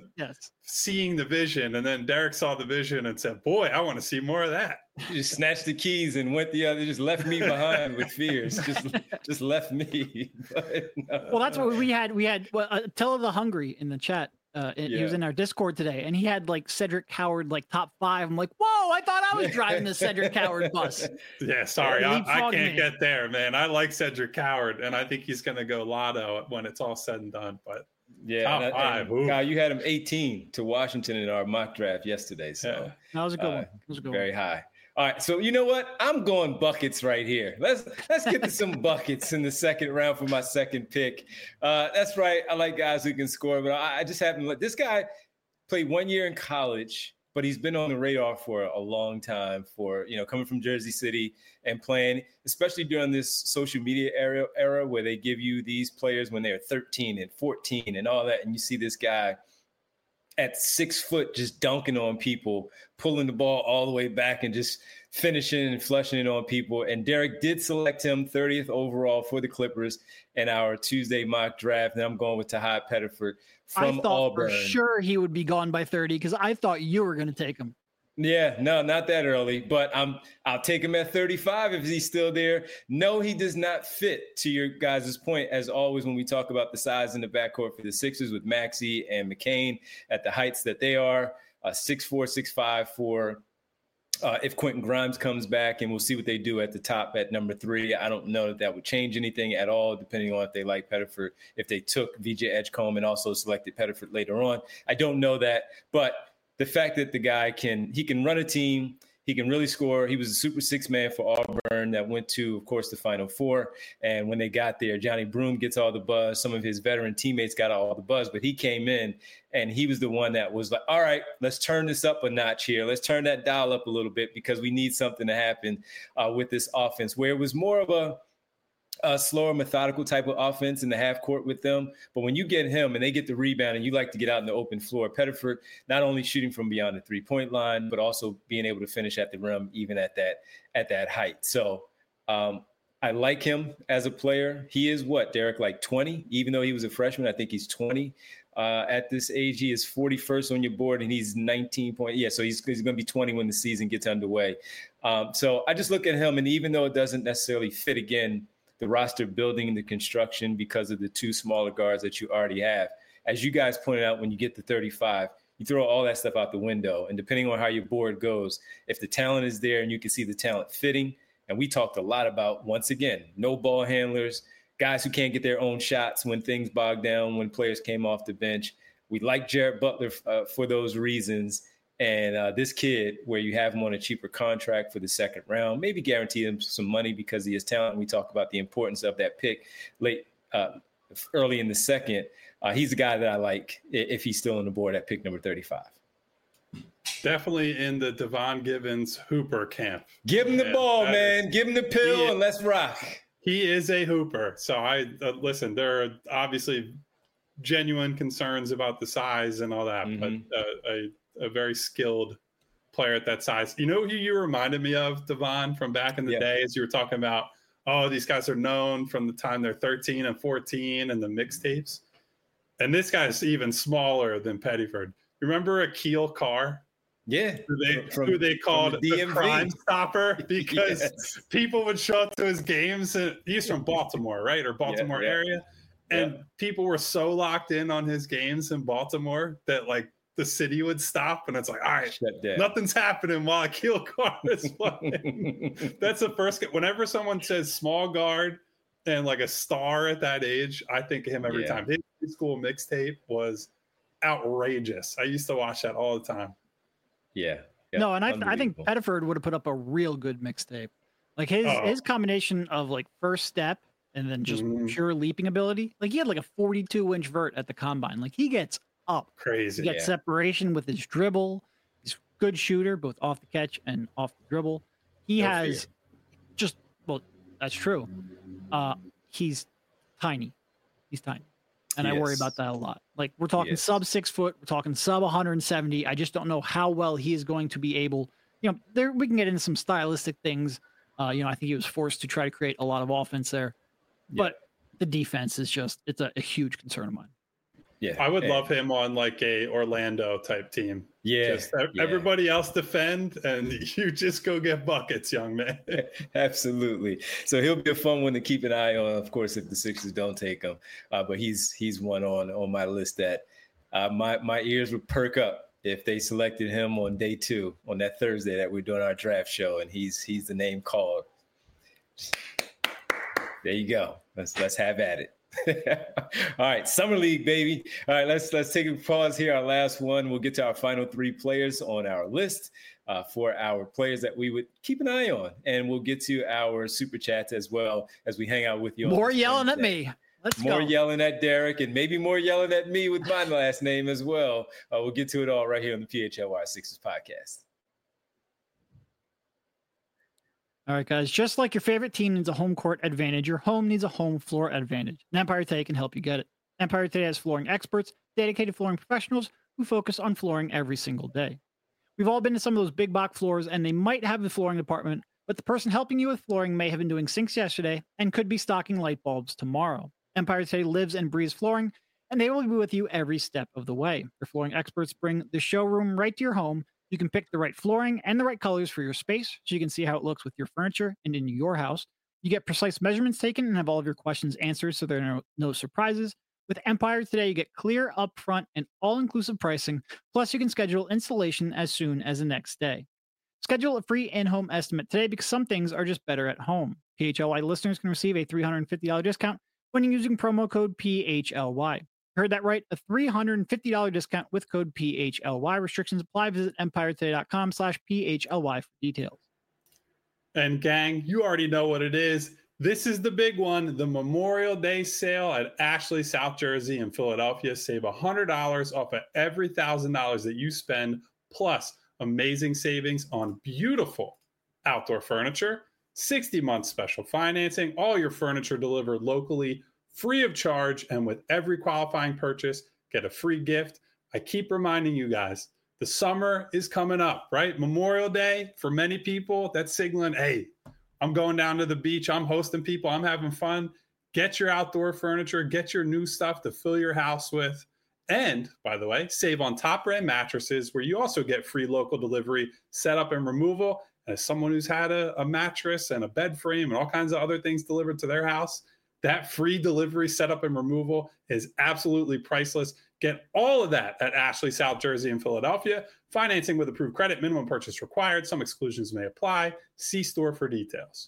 seeing the vision, and then Derek saw the vision and said, "Boy, I want to see more of that." You just snatched the keys and went the other, just left me behind with Fears. Just left me. But, no. Well, that's what we had. We had Tell the Hungry in the chat. He was in our Discord today, and he had like Cedric Howard like top 5. I'm like, whoa! I thought I was driving the Cedric Howard bus. Yeah, sorry, I can't get there, man. I like Cedric Howard, and I think he's going to go lotto when it's all said and done. But yeah, top 5. Kyle, you had him 18 to Washington in our mock draft yesterday, so that was a good one. That was a good very high. All right, so you know what? I'm going buckets right here. Let's get to some buckets in the second round for my second pick. That's right. I like guys who can score, but I just happen to let this guy played 1 year in college, but he's been on the radar for a long time. For coming from Jersey City and playing, especially during this social media era where they give you these players when they're 13 and 14 and all that, and you see this guy at 6 foot, just dunking on people, pulling the ball all the way back and just finishing and flushing it on people. And Derek did select him 30th overall for the Clippers in our Tuesday mock draft. And I'm going with Tahai Pettiford from Auburn. I thought for sure he would be gone by 30 because I thought you were going to take him. Yeah, no, not that early, but I'll take him at 35 if he's still there. No, he does not fit, to your guys' point, as always, when we talk about the size in the backcourt for the Sixers with Maxey and McCain at the heights that they are, 6'4", 6'5" for if Quentin Grimes comes back, and we'll see what they do at the top at number 3. I don't know that would change anything at all, depending on if they like Pettiford, if they took VJ Edgecombe and also selected Pettiford later on. I don't know that, but the fact that the guy can run a team, he can really score. He was a super 6 man for Auburn that went to, of course, the Final Four. And when they got there, Johnny Broome gets all the buzz. Some of his veteran teammates got all the buzz, but he came in and he was the one that was like, all right, let's turn this up a notch here. Let's turn that dial up a little bit because we need something to happen with this offense, where it was more of a slower, methodical type of offense in the half court with them. But when you get him and they get the rebound and you like to get out in the open floor, Pettiford not only shooting from beyond the 3-point line, but also being able to finish at the rim, even at that height. So I like him as a player. He is Derek, like 20, even though he was a freshman. I think he's 20 at this age. He is 41st on your board and he's 19 point. Yeah. So he's going to be 20 when the season gets underway. So I just look at him, and even though it doesn't necessarily fit again, the roster building and the construction because of the 2 smaller guards that you already have. As you guys pointed out, when you get to 35, you throw all that stuff out the window. And depending on how your board goes, if the talent is there and you can see the talent fitting, and we talked a lot about, once again, no ball handlers, guys who can't get their own shots when things bog down, when players came off the bench. We like Jared Butler for those reasons. And this kid, where you have him on a cheaper contract for the second round, maybe guarantee him some money because of his talent. We talk about the importance of that pick early in the second. He's a guy that I like if he's still on the board at pick number 35. Definitely in the Devon Givens Hooper camp. Give him the ball, man. Give him the pill and let's rock. He is a hooper. So listen, there are obviously genuine concerns about the size and all that, but a very skilled player at that size. You know who you reminded me of, Devon, from back in the day, as you were talking about, these guys are known from the time they're 13 and 14 and the mixtapes. And this guy's even smaller than Pettiford. Remember Akil Carr? Yeah. Who they called the Crime Stopper because people would show up to his games. And he's from Baltimore, right? Or Baltimore area. And people were so locked in on his games in Baltimore that the city would stop, and it's like, all right, nothing's happening while Akil Carr is playing. That's the first. Whenever someone says small guard and a star at that age, I think of him every time. His high school mixtape was outrageous. I used to watch that all the time. Yeah. No, and I think Pettiford would have put up a real good mixtape. His combination of first step and then just pure leaping ability. He had a 42-inch vert at the combine. He gets up. Crazy. He gets separation with his dribble. He's a good shooter, both off the catch and off the dribble. He has that's true. He's tiny. And I worry about that a lot. Like, we're talking sub 6 foot, we're talking sub 170. I just don't know how well he is going to be able, there we can get into some stylistic things. I think he was forced to try to create a lot of offense there, but the defense is it's a huge concern of mine. Yeah, I would love him on like a Orlando type team. Everybody else defend, and you just go get buckets, young man. Absolutely. So he'll be a fun one to keep an eye on, of course, if the Sixers don't take him. But he's one on my list that my ears would perk up if they selected him on day 2 on that Thursday that we're doing our draft show, and he's the name called. There you go. Let's have at it. All right, Summer League, baby. All right, let's take a pause here. Our last one. We'll get to our final 3 players on our list for our players that we would keep an eye on, and we'll get to our super chats as well as we hang out with you. More yelling at me. Let's go. More yelling at Derek, and maybe more yelling at me with my last name as well. We'll get to it all right here on the PHLY Sixers podcast. All right, guys, just like your favorite team needs a home court advantage, your home needs a home floor advantage. And Empire Today can help you get it. Empire Today has flooring experts, dedicated flooring professionals who focus on flooring every single day. We've all been to some of those big box floors, and they might have the flooring department, but the person helping you with flooring may have been doing sinks yesterday and could be stocking light bulbs tomorrow. Empire Today lives and breathes flooring, and they will be with you every step of the way. Their flooring experts bring the showroom right to your home. You can pick the right flooring and the right colors for your space so you can see how it looks with your furniture and in your house. You get precise measurements taken and have all of your questions answered so there are no surprises. With Empire Today, you get clear, upfront, and all-inclusive pricing. Plus, you can schedule installation as soon as the next day. Schedule a free in-home estimate today because some things are just better at home. PHLY listeners can receive a $350 discount when using promo code PHLY. Heard that right? A $350 discount with code PHLY. Restrictions apply. Visit EmpireToday.com/PHLY for details. And gang, you already know what it is. This is the big one, the Memorial Day sale at Ashley South Jersey in Philadelphia. Save $100 off of every $1,000 that you spend, plus amazing savings on beautiful outdoor furniture, 60-month special financing, all your furniture delivered locally, free of charge, and with every qualifying purchase, get a free gift. I keep reminding you guys, the summer is coming up, right? Memorial Day, for many people, that's signaling, hey, I'm going down to the beach, I'm hosting people, I'm having fun. Get your outdoor furniture, get your new stuff to fill your house with. And, by the way, save on Top Brand mattresses, where you also get free local delivery, setup, and removal. As someone who's had a mattress and a bed frame and all kinds of other things delivered to their house, that free delivery, setup, and removal is absolutely priceless. Get all of that at Ashley South Jersey in Philadelphia. Financing with approved credit, minimum purchase required. Some exclusions may apply. See store for details.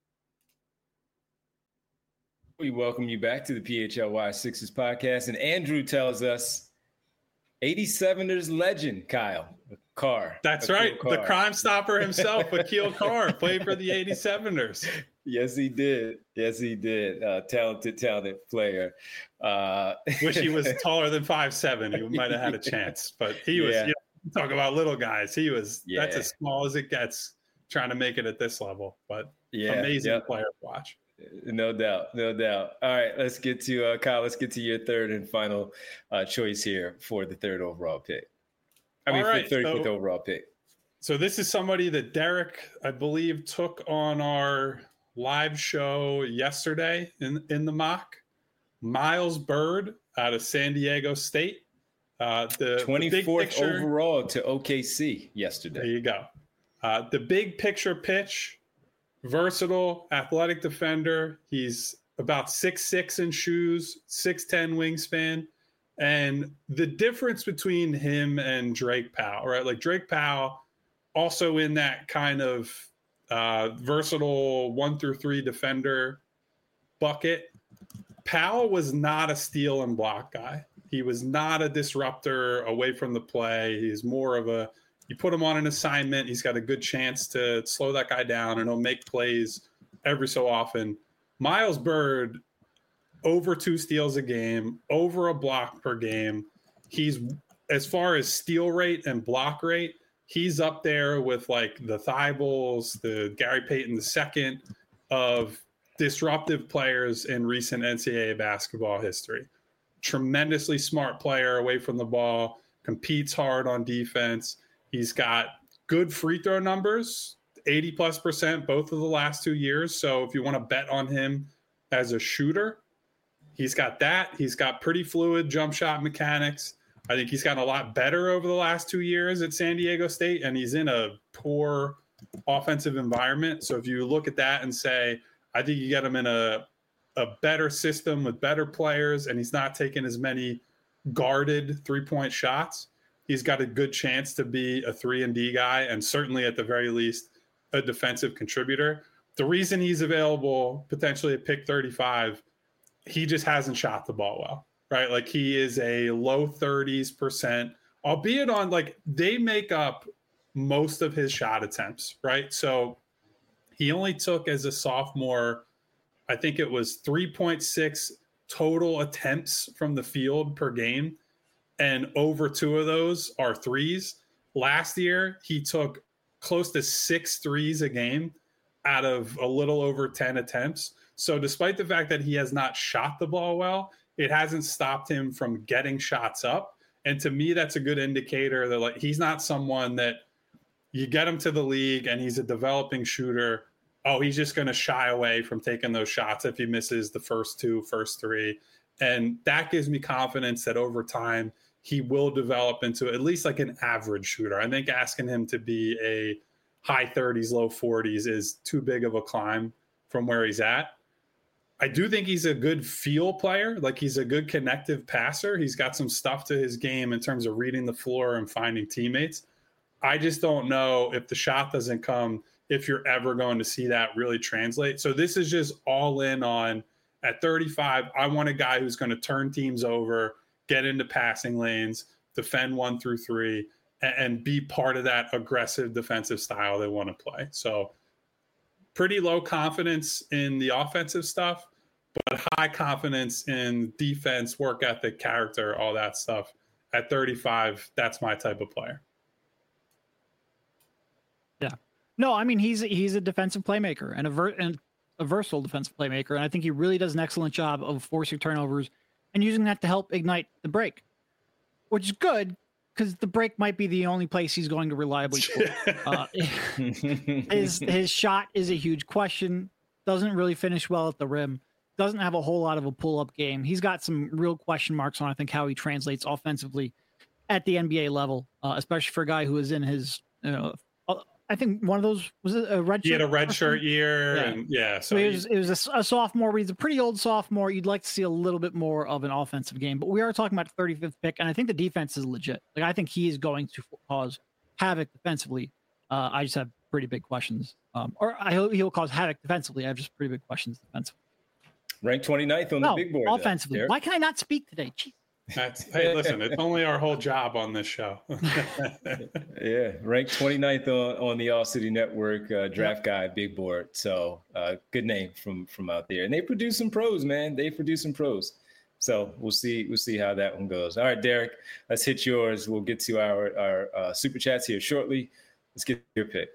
We welcome you back to the PHLY Sixers podcast. And Andrew tells us 87ers legend, Kyle Carr. That's right. Carr. The Crime Stopper himself, Akil Carr, played for the 87ers. Yes, he did. Talented player. Wish he was taller than 5'7". He might have had a chance, but he was, talk about little guys. He was, that's as small as it gets trying to make it at this level, but amazing player to watch. No doubt. All right, let's get to Kyle. Let's get to your third and final choice here for the third overall pick. For the 35th overall pick. So this is somebody that Derek, I believe, took on our live show yesterday in the mock. Miles Byrd out of San Diego State. The 24th overall to OKC yesterday. There you go. The big picture pitch, versatile, athletic defender. He's about 6'6" in shoes, 6'10" wingspan. And the difference between him and Drake Powell, right? Like Drake Powell, also in that kind of versatile 1-3 defender bucket. Powell was not a steal and block guy. He was not a disruptor away from the play. He's more of you put him on an assignment, he's got a good chance to slow that guy down, and he'll make plays every so often. Miles Byrd, over 2 steals a game, over a block per game. He's, as far as steal rate and block rate, he's up there with like the Thibaults, the Gary Payton II of disruptive players in recent NCAA basketball history. tremendously smart player away from the ball, competes hard on defense. He's got good free throw numbers, 80+% both of the last 2 years. So if you want to bet on him as a shooter, he's got that. He's got pretty fluid jump shot mechanics. I think he's gotten a lot better over the last 2 years at San Diego State, and he's in a poor offensive environment. So if you look at that and say, I think you get him in a better system with better players, and he's not taking as many guarded three-point shots, he's got a good chance to be a 3-and-D guy, and certainly at the very least a defensive contributor. The reason he's available potentially at pick 35, he just hasn't shot the ball well, right? Like he is a low 30s%, albeit on like they make up most of his shot attempts, right? So he only took as a sophomore, I think it was 3.6 total attempts from the field per game. And over 2 of those are threes. Last year, he took close to 6 threes a game out of a little over 10 attempts. So despite the fact that he has not shot the ball well, it hasn't stopped him from getting shots up. And to me, that's a good indicator that like he's not someone that you get him to the league and he's a developing shooter. Oh, he's just going to shy away from taking those shots if he misses the first 3. And that gives me confidence that over time, he will develop into at least like an average shooter. I think asking him to be a high 30s, low 40s is too big of a climb from where he's at. I do think he's a good feel player. Like he's a good connective passer. He's got some stuff to his game in terms of reading the floor and finding teammates. I just don't know if the shot doesn't come, if you're ever going to see that really translate. So this is just all in on at 35. I want a guy who's going to turn teams over, get into passing lanes, defend 1 through 3, and be part of that aggressive defensive style they want to play. So pretty low confidence in the offensive stuff, but high confidence in defense, work ethic, character, all that stuff. At 35, that's my type of player. Yeah. No, I mean, he's a defensive playmaker and a versatile defensive playmaker. And I think he really does an excellent job of forcing turnovers and using that to help ignite the break, which is good because the break might be the only place he's going to reliably score. His shot is a huge question. Doesn't really finish well at the rim. Doesn't have a whole lot of a pull-up game. He's got some real question marks on, I think, how he translates offensively at the NBA level, especially for a guy who is in his, I think one of those was it a red shirt. He had a red shirt year, yeah. and yeah. So it was a sophomore. He's a pretty old sophomore. You'd like to see a little bit more of an offensive game, but we are talking about the 35th pick, and I think the defense is legit. Like I think he is going to cause havoc defensively. I just have pretty big questions, or I hope he'll cause havoc defensively. I have just pretty big questions defensively. Ranked 29th on the big board. Offensively. Why can I not speak today? Jeez. Hey, listen, it's only our whole job on this show. Yeah, ranked 29th on the All City Network draft guide big board. So good name from out there. And they produce some pros, man. They produce some pros. So we'll see how that one goes. All right, Derek, let's hit yours. We'll get to our super chats here shortly. Let's get your pick.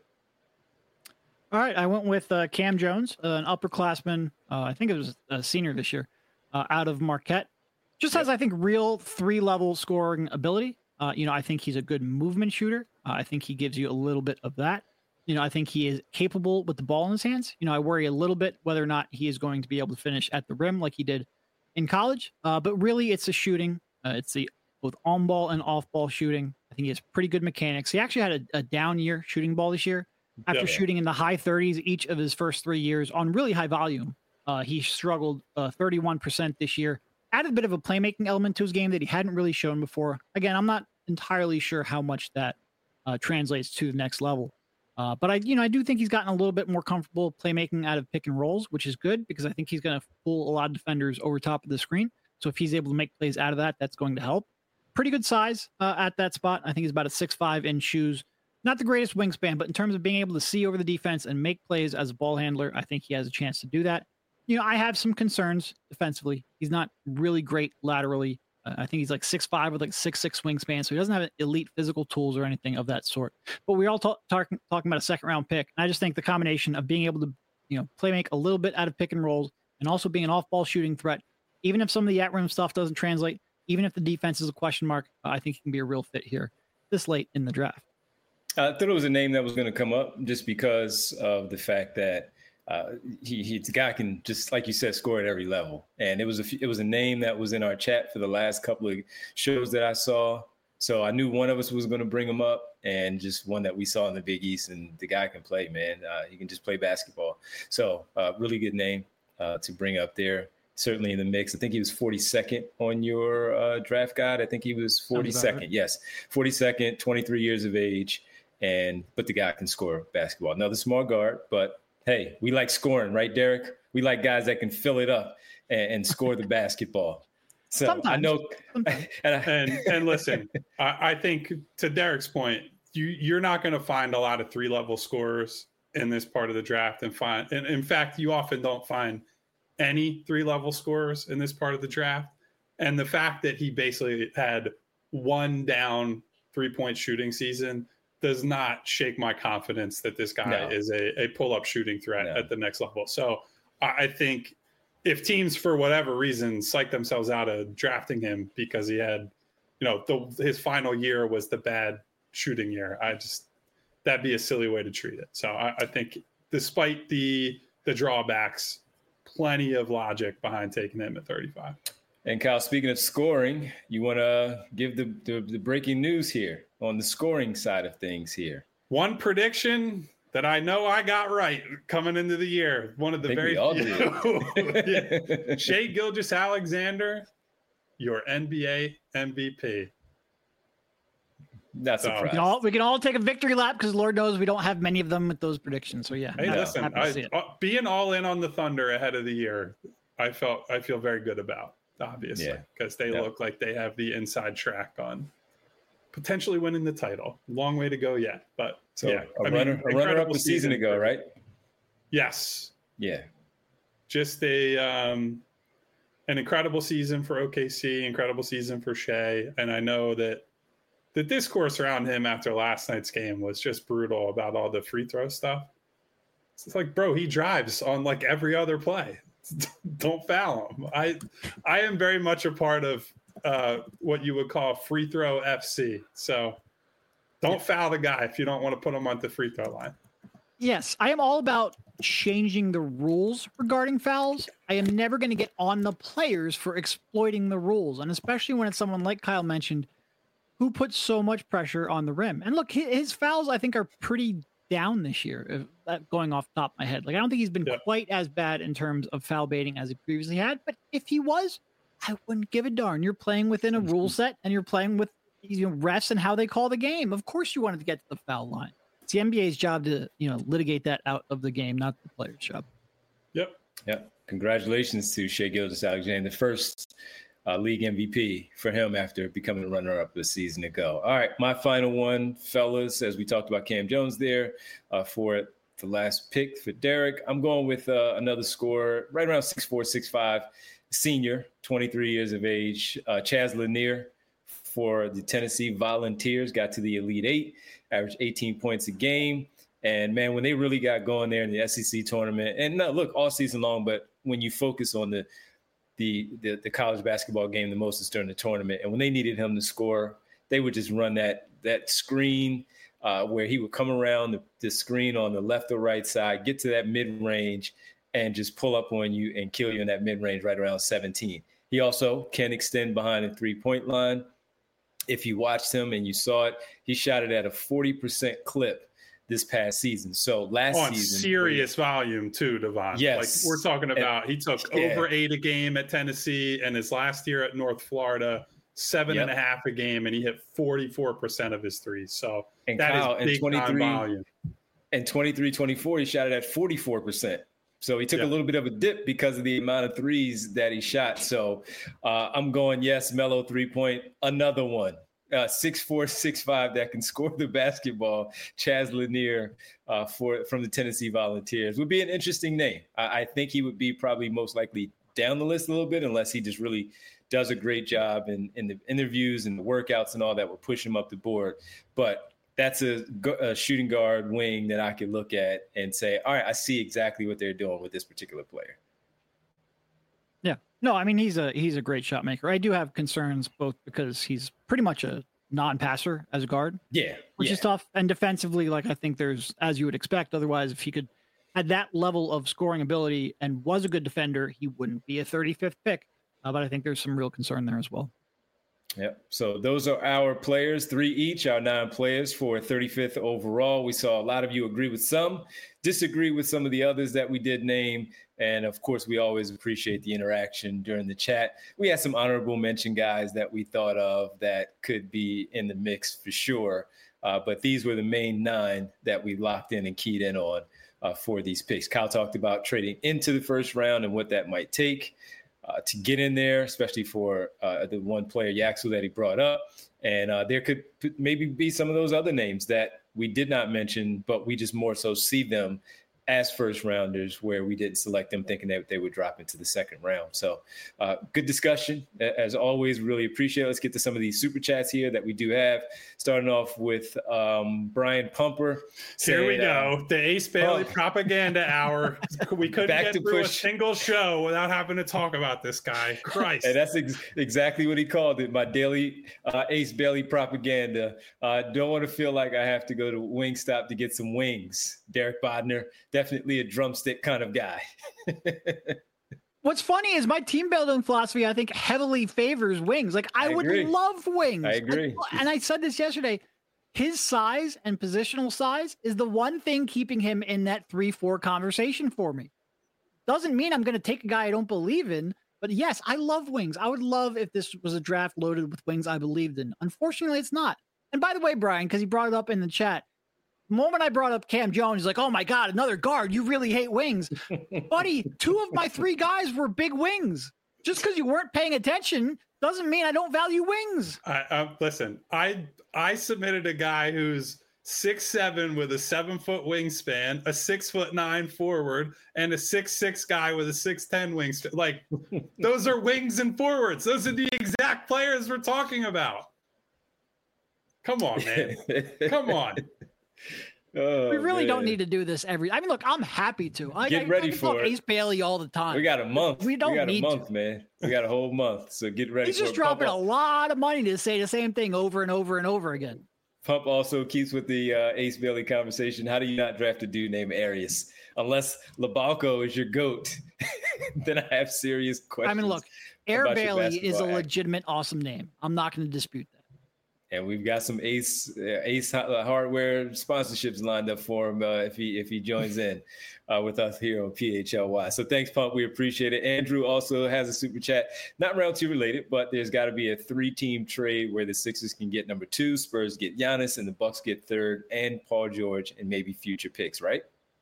All right, I went with Cam Jones, an upperclassman. I think it was a senior this year, out of Marquette. Just has, I think, real 3-level scoring ability. I think he's a good movement shooter. I think he gives you a little bit of that. I think he is capable with the ball in his hands. I worry a little bit whether or not he is going to be able to finish at the rim like he did in college. But really, it's the shooting. It's the both on-ball and off-ball shooting. I think he has pretty good mechanics. He actually had a down year shooting ball this year. After shooting in the high 30s each of his first 3 years on really high volume, he struggled 31% this year. Added a bit of a playmaking element to his game that he hadn't really shown before. Again, I'm not entirely sure how much that translates to the next level. But I do think he's gotten a little bit more comfortable playmaking out of pick and rolls, which is good because I think he's going to pull a lot of defenders over top of the screen. So if he's able to make plays out of that, that's going to help. Pretty good size at that spot. I think he's about a 6'5" in shoes. Not the greatest wingspan, but in terms of being able to see over the defense and make plays as a ball handler, I think he has a chance to do that. I have some concerns defensively. He's not really great laterally. I think he's like 6'5" with like 6'6" wingspan, so he doesn't have elite physical tools or anything of that sort. But we're all talking about a second-round pick. And I just think the combination of being able to, play make a little bit out of pick and rolls and also being an off-ball shooting threat Even if some of the at-rim stuff doesn't translate, even if the defense is a question mark, I think he can be a real fit here this late in the draft. I thought it was a name that was going to come up just because of the fact that the guy can, just like you said, score at every level. And it was a name that was in our chat for the last couple of shows that I saw. So I knew one of us was going to bring him up, and just one that we saw in the Big East. And the guy can play, man. He can just play basketball. So really good name to bring up there. Certainly in the mix. I think he was 42nd on your draft guide. I think he was 42nd. Right. Yes, 42nd, 23 years of age. But the guy can score basketball. Another small guard, but hey, we like scoring, right, Derek? We like guys that can fill it up and score the basketball. So sometimes. I know. And listen, I think to Derek's point, you're not going to find a lot of 3-level scorers in this part of the draft, and in fact, you often don't find any 3-level scorers in this part of the draft. And the fact that he basically had one down 3-point shooting season does not shake my confidence that this guy is a pull-up shooting threat at the next level. So I think if teams, for whatever reason, psych themselves out of drafting him because he had, his final year was the bad shooting year, that'd be a silly way to treat it. So I think despite the drawbacks, plenty of logic behind taking him at 35. And Kyle, speaking of scoring, you want to give the breaking news here on the scoring side of things here. One prediction that I know I got right coming into the year. One of the very few. Shai Gilgeous-Alexander, your NBA MVP. Not surprised. We can all take a victory lap because Lord knows we don't have many of them with those predictions. So yeah. Hey, listen, being all in on the Thunder ahead of the year, I feel very good about, obviously, because they look like they have the inside track on potentially winning the title. Long way to go yet, but a runner up a season ago, right? Yes. Yeah. Just an incredible season for OKC, incredible season for Shai, and I know that the discourse around him after last night's game was just brutal about all the free throw stuff. It's like, bro, he drives on like every other play. Don't foul him. I am very much a part of what you would call free throw FC. So don't foul the guy if you don't want to put him on the free throw line. Yes, I am all about changing the rules regarding fouls. I am never going to get on the players for exploiting the rules, and especially when it's someone like Kyle mentioned who puts so much pressure on the rim. And look, his fouls, I think, are pretty down this year, going off the top of my head. Like, I don't think he's been quite as bad in terms of foul baiting as he previously had. But if he was, I wouldn't give a darn. You're playing within a rule set, and you're playing with refs and how they call the game. Of course you wanted to get to the foul line. It's the NBA's job to, litigate that out of the game, not the player's job. Yep. Congratulations to Shai Gilgeous-Alexander, the first league MVP for him after becoming a runner-up a season ago. All right, my final one, fellas, as we talked about Cam Jones there for the last pick for Derek. I'm going with another scorer, right around 6'4", 6'5", senior, 23 years of age, Chaz Lanier for the Tennessee Volunteers, got to the Elite Eight, averaged 18 points a game. And, man, when they really got going there in the SEC tournament, and look, all season long, but when you focus on the college basketball game the most is during the tournament. And when they needed him to score, they would just run that screen where he would come around the screen on the left or right side, get to that mid-range, and just pull up on you and kill you in that mid-range right around 17. He also can extend behind the three-point line. If you watched him and you saw it, he shot it at a 40% clip this past season. So last season, serious volume too, Devon. Yes, like we're talking about. He took over 8 a game at Tennessee, and his last year at North Florida, 7.5 a game, and he hit 44% of his threes. So and that Kyle, is big time volume. And 23-24, he shot it at 44%. So he took a little bit of a dip because of the amount of threes that he shot. So I'm going, yes, Melo 3-point, another one. 6'4", 6'5", that can score the basketball. Chaz Lanier from the Tennessee Volunteers would be an interesting name. I think he would be probably most likely down the list a little bit unless he just really does a great job in the interviews and the workouts and all that will push him up the board. But that's a shooting guard wing that I could look at and say, all right, I see exactly what they're doing with this particular player. No, I mean he's a great shot maker. I do have concerns both because he's pretty much a non-passer as a guard. Yeah. Which is tough. And defensively, like I think there's, as you would expect, otherwise if he could had that level of scoring ability and was a good defender, he wouldn't be a 35th pick. But I think there's some real concern there as well. Yep. So those are our players, 3 each, our 9 players for 35th overall. We saw a lot of you agree with some, disagree with some of the others that we did name. And of course, we always appreciate the interaction during the chat. We had some honorable mention guys that we thought of that could be in the mix for sure. But these were the main 9 that we locked in and keyed in on for these picks. Kyle talked about trading into the first round and what that might take to get in there, especially for the one player, Yaxel, that he brought up. And there could maybe be some of those other names that we did not mention, but we just more so see them as first rounders where we didn't select them thinking that they would drop into the second round. So good discussion. As always, really appreciate it. Let's get to some of these super chats here that we do have. Starting off with Brian Pumper. Here we go. The Ace Bailey propaganda hour. We couldn't get through a single show without having to talk about this guy. Christ. And that's exactly what he called it. My daily Ace Bailey propaganda. Don't want to feel like I have to go to Wingstop to get some wings. Derek Bodner, definitely a drumstick kind of guy. What's funny is my team building philosophy, I think, heavily favors wings. Like, I would love wings. I agree. And I said this yesterday. His size and positional size is the one thing keeping him in that 3-4 conversation for me. Doesn't mean I'm going to take a guy I don't believe in. But yes, I love wings. I would love if this was a draft loaded with wings I believed in. Unfortunately, it's not. And by the way, Brian, because he brought it up in the chat, the moment I brought up Cam Jones, he's like, oh my God, another guard. You really hate wings. Buddy, 2 of my 3 guys were big wings. Just because you weren't paying attention doesn't mean I don't value wings. Listen, I submitted a guy who's 6'7" with a 7-foot wingspan, a 6'9" forward, and a 6'6" guy with a 6'10" wingspan. Like, those are wings and forwards. Those are the exact players we're talking about. Come on, man. Come on. Oh, we really don't need to do this I mean, look, I'm happy to. Get ready for it. Ace Bailey all the time. We got a month. We got a month, man. We got a whole month. So get ready. He's just dropping a lot of money to say the same thing over and over and over again. Pump also keeps with the Ace Bailey conversation. How do you not draft a dude named Arias? Unless Labalco is your GOAT, then I have serious questions. I mean, look, Air Bailey is a legitimate awesome name. I'm not going to dispute that. And we've got some Ace hardware sponsorships lined up for him if he joins in with us here on PHLY. So thanks, Pump. We appreciate it. Andrew also has a super chat, not round 2 related, but there's got to be a 3-team trade where the Sixers can get number 2, Spurs get Giannis, and the Bucks get 3rd, and Paul George, and maybe future picks, right?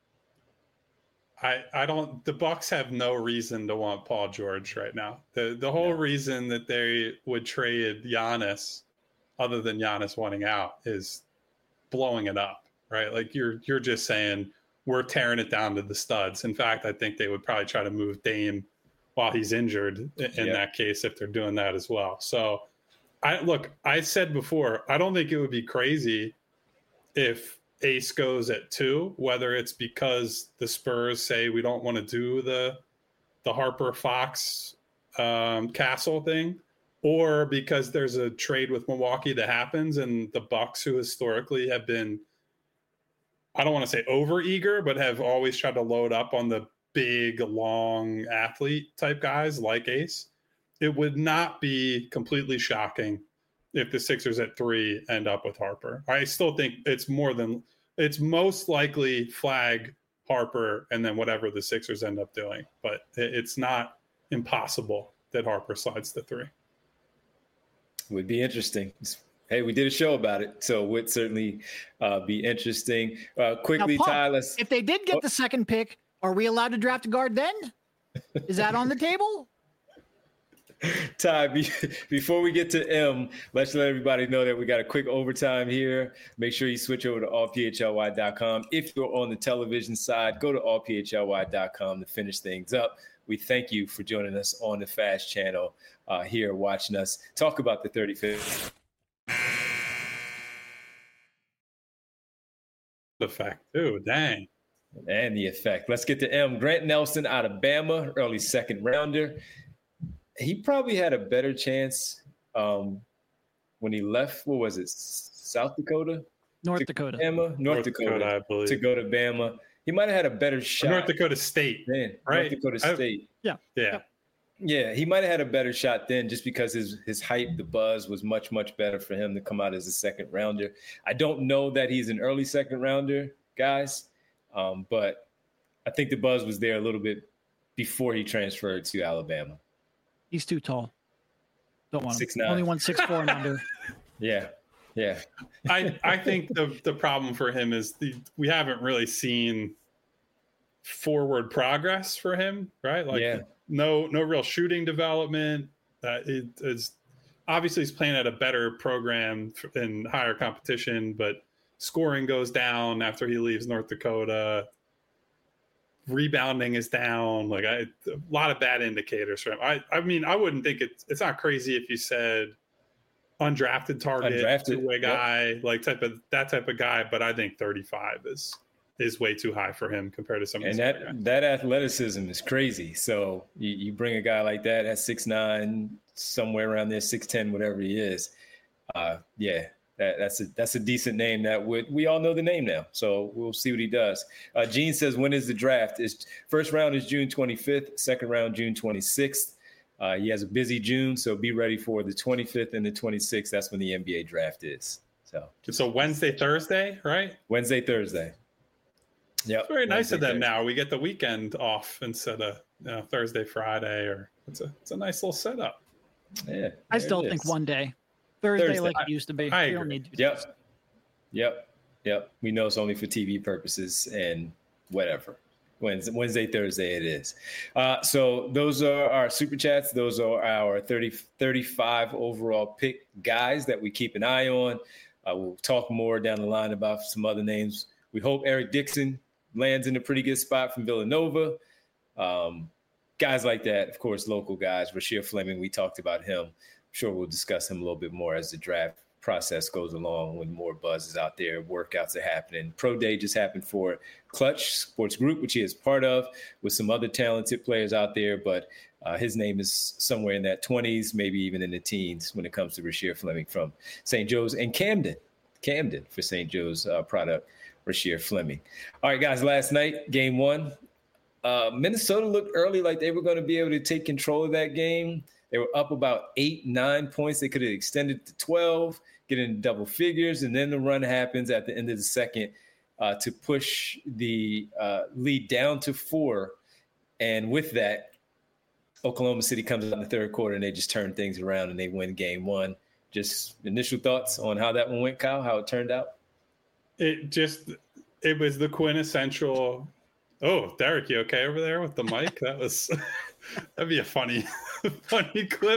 I don't. The Bucks have no reason to want Paul George right now. The whole reason that they would trade Giannis, other than Giannis wanting out, is blowing it up, right? Like you're just saying we're tearing it down to the studs. In fact, I think they would probably try to move Dame while he's injured in that case if they're doing that as well. So I said before, I don't think it would be crazy if Ace goes at 2, whether it's because the Spurs say we don't want to do the Harper Fox Castle thing, or because there's a trade with Milwaukee that happens and the Bucks, who historically have been, I don't want to say over eager, but have always tried to load up on the big, long athlete type guys like Ace. It would not be completely shocking if the Sixers at 3 end up with Harper. I still think it's most likely flag Harper and then whatever the Sixers end up doing, but it's not impossible that Harper slides to 3. Would be interesting. Hey, we did a show about it, so it would certainly be interesting. Quickly, now, Pump, Ty, if they did get the 2nd pick, are we allowed to draft a guard then? Is that on the table? Ty, before we get to M, let's let everybody know that we got a quick overtime here. Make sure you switch over to allphly.com. If you're on the television side, go to allphly.com to finish things up. We thank you for joining us on the Fast Channel here, watching us talk about the 35th. The fact, too, dang. And the effect. Let's get to M. Grant Nelson out of Bama, early 2nd rounder. he probably had a better chance when he left. What was it? South Dakota? North Dakota. Bama? North Dakota, I believe. To go to Bama. He might have had a better shot. North Dakota State. Then, right? North Dakota State. Yeah, he might have had a better shot then just because his hype, the buzz was much, much better for him to come out as a second rounder. I don't know that he's an early second rounder, guys, but I think the buzz was there a little bit before he transferred to Alabama. He's too tall. Don't want him. 6'9". Only 164 and under. Yeah. I think the problem for him is we haven't really seen forward progress for him, right? No real shooting development. It is obviously he's playing at a better program in higher competition, but scoring goes down after he leaves North Dakota. Rebounding is down. A lot of bad indicators for him. I mean, I wouldn't think it's not crazy if you said undrafted target, two-way guy, that type of guy. But I think 35 is way too high for him compared to some of these that athleticism is crazy. So you bring a guy like that at 6'9", somewhere around there, 6'10", whatever he is. That's a decent name. We all know the name now. So we'll see what he does. Gene says, when is the draft? First round is June 25th, second round June 26th. He has a busy June, so be ready for the 25th and the 26th. That's when the NBA draft is. So Wednesday, Thursday, right? Wednesday, Thursday. Yeah, it's very nice of them. Now we get the weekend off instead of Thursday, Friday, or it's a nice little setup. Yeah, I still think one day, Thursday like it used to be. I agree. Don't need to. Yep. We know it's only for TV purposes and whatever. Wednesday, Thursday it is. So those are our super chats. Those are our 35 overall pick guys that we keep an eye on. We'll talk more down the line about some other names. We hope Eric Dixon lands in a pretty good spot from Villanova. Guys like that, of course, local guys. Rasheer Fleming, we talked about him. I'm sure we'll discuss him a little bit more as the draft process goes along when more buzz is out there, workouts are happening. Pro Day just happened for Clutch Sports Group, which he is part of, with some other talented players out there. But his name is somewhere in that 20s, maybe even in the teens when it comes to Rasheer Fleming from St. Joe's and Camden for St. Joe's product, Rasheer Fleming. All right, guys, last night, game one. Minnesota looked early like they were going to be able to take control of that game. They were up about 8-9 points. They could have extended to 12, get into double figures, and then the run happens at the end of the second to push the lead down to 4. And with that, Oklahoma City comes out in the third quarter, and they just turn things around, and they win game one. Just initial thoughts on how that one went, Kyle, how it turned out? It was the quintessential. Oh, Derek, you okay over there with the mic? That'd be a funny clip.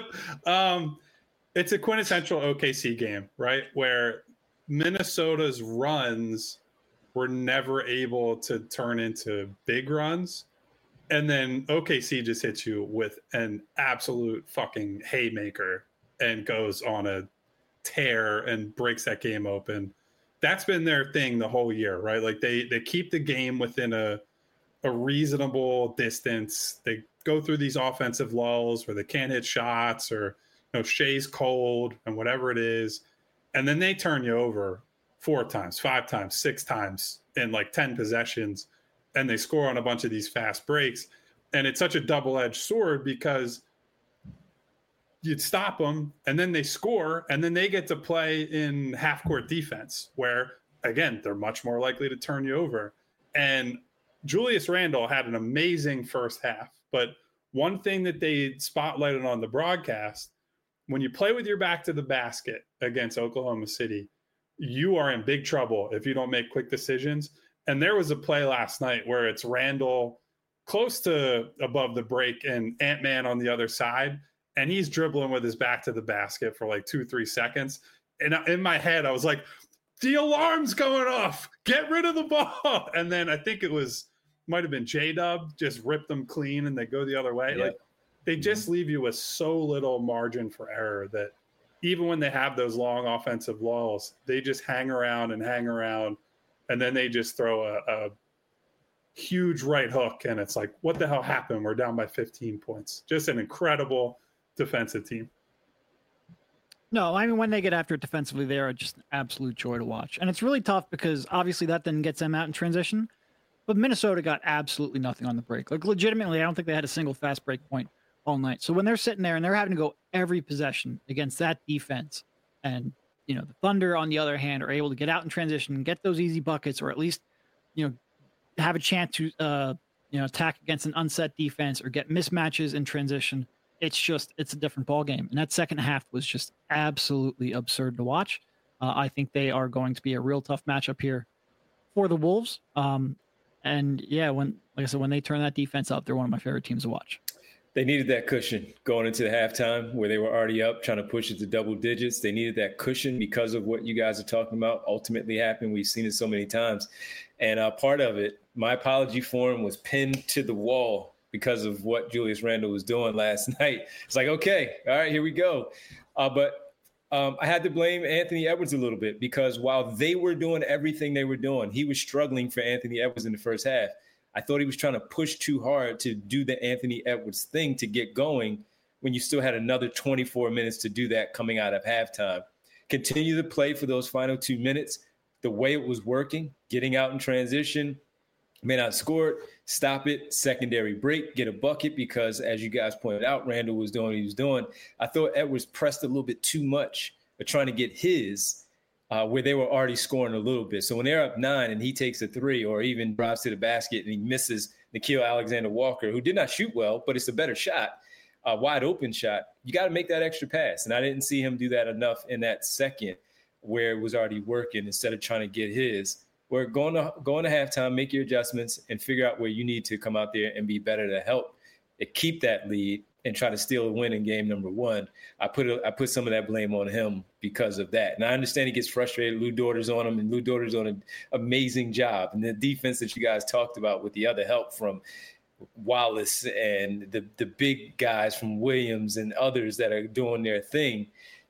It's a quintessential OKC game, right? Where Minnesota's runs were never able to turn into big runs. And then OKC just hits you with an absolute fucking haymaker and goes on a tear and breaks that game open. That's been their thing the whole year, right? Like they keep the game within a reasonable distance. They go through these offensive lulls where they can't hit shots or Shea's cold and whatever it is. And then they turn you over 4 times, 5 times, 6 times in like 10 possessions. And they score on a bunch of these fast breaks. And it's such a double-edged sword because you'd stop them and then they score and then they get to play in half-court defense where, again, they're much more likely to turn you over. And Julius Randle had an amazing first half. But one thing that they spotlighted on the broadcast, when you play with your back to the basket against Oklahoma City, you are in big trouble if you don't make quick decisions. And there was a play last night where it's Randle close to above the break and Ant-Man on the other side. And he's dribbling with his back to the basket for like 2-3 seconds. And in my head, I was like, the alarm's going off. Get rid of the ball. And then I think might have been J-Dub, just ripped them clean and they go the other way. Yeah. Like they just leave you with so little margin for error that even when they have those long offensive lulls, they just hang around. And then they just throw a huge right hook. And it's like, what the hell happened? We're down by 15 points. Just an incredible defensive team. No, I mean, when they get after it defensively, they are just an absolute joy to watch. And it's really tough because obviously that then gets them out in transition. But Minnesota got absolutely nothing on the break. Like, legitimately, I don't think they had a single fast break point all night. So when they're sitting there and they're having to go every possession against that defense, and, you know, the Thunder, on the other hand, are able to get out in transition and get those easy buckets, or at least, you know, have a chance to, attack against an unset defense or get mismatches in transition. It's a different ball game. And that second half was just absolutely absurd to watch. I think they are going to be a real tough matchup here for the Wolves. And yeah, like I said, when they turn that defense up, they're one of my favorite teams to watch. They needed that cushion going into the halftime where they were already up, trying to push it to double digits. They needed that cushion because of what you guys are talking about ultimately happened. We've seen it so many times. And part of it, my apology for him was pinned to the wall because of what Julius Randle was doing last night. It's like, okay, all right, here we go. But I had to blame Anthony Edwards a little bit because while they were doing everything they were doing, he was struggling for Anthony Edwards in the first half. I thought he was trying to push too hard to do the Anthony Edwards thing to get going when you still had another 24 minutes to do that coming out of halftime. Continue to play for those final 2 minutes the way it was working, getting out in transition, may not score it, stop it, secondary break, get a bucket because, as you guys pointed out, Randall was doing what he was doing. I thought Edwards pressed a little bit too much of trying to get his where they were already scoring a little bit. So when they're up 9 and he takes a 3 or even drives to the basket and he misses Nickeil Alexander-Walker, who did not shoot well, but it's a better shot, a wide open shot, you got to make that extra pass. And I didn't see him do that enough in that second where it was already working instead of trying to get his. We're going to halftime, make your adjustments, and figure out where you need to come out there and be better to help keep that lead and try to steal a win in game number 1. I put some of that blame on him because of that. And I understand he gets frustrated. Lou Dorter's on him, and Lou Dorter's on an amazing job. And the defense that you guys talked about with the other help from Wallace and the big guys from Williams and others that are doing their thing,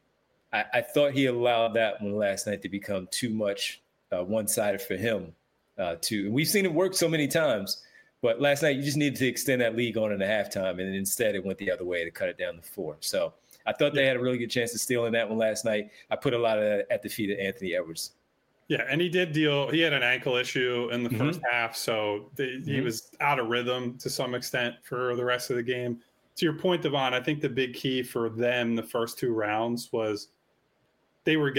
I thought he allowed that one last night to become too much one-sided for him too. And we've seen it work so many times. But last night, you just needed to extend that lead going into halftime, and instead it went the other way to cut it down to 4. So I thought they had a really good chance of stealing that one last night. I put a lot of that at the feet of Anthony Edwards. Yeah, and he had an ankle issue in the first half, so he was out of rhythm to some extent for the rest of the game. To your point, Devon, I think the big key for them the first 2 rounds was they were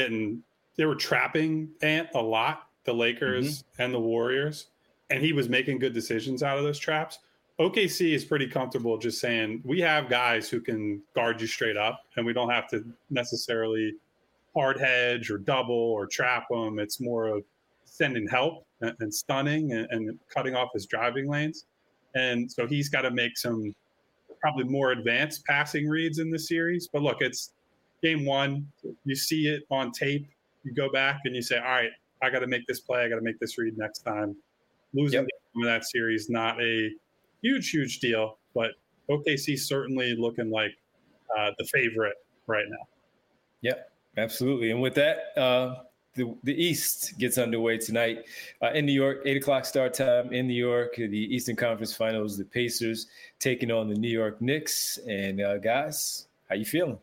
trapping Ant a lot, the Lakers and the Warriors. And he was making good decisions out of those traps. OKC is pretty comfortable just saying, we have guys who can guard you straight up, and we don't have to necessarily hard hedge or double or trap them. It's more of sending help and stunning and cutting off his driving lanes. And so he's got to make some probably more advanced passing reads in the series. But look, it's game 1. You see it on tape. You go back and you say, all right, I got to make this play. I got to make this read next time. Losing that series, not a huge deal, but OKC certainly looking like the favorite right now. Yep, absolutely. And with that, the East gets underway tonight in New York, 8 o'clock start time in New York. The Eastern Conference Finals, the Pacers taking on the New York Knicks. And guys, how you feeling?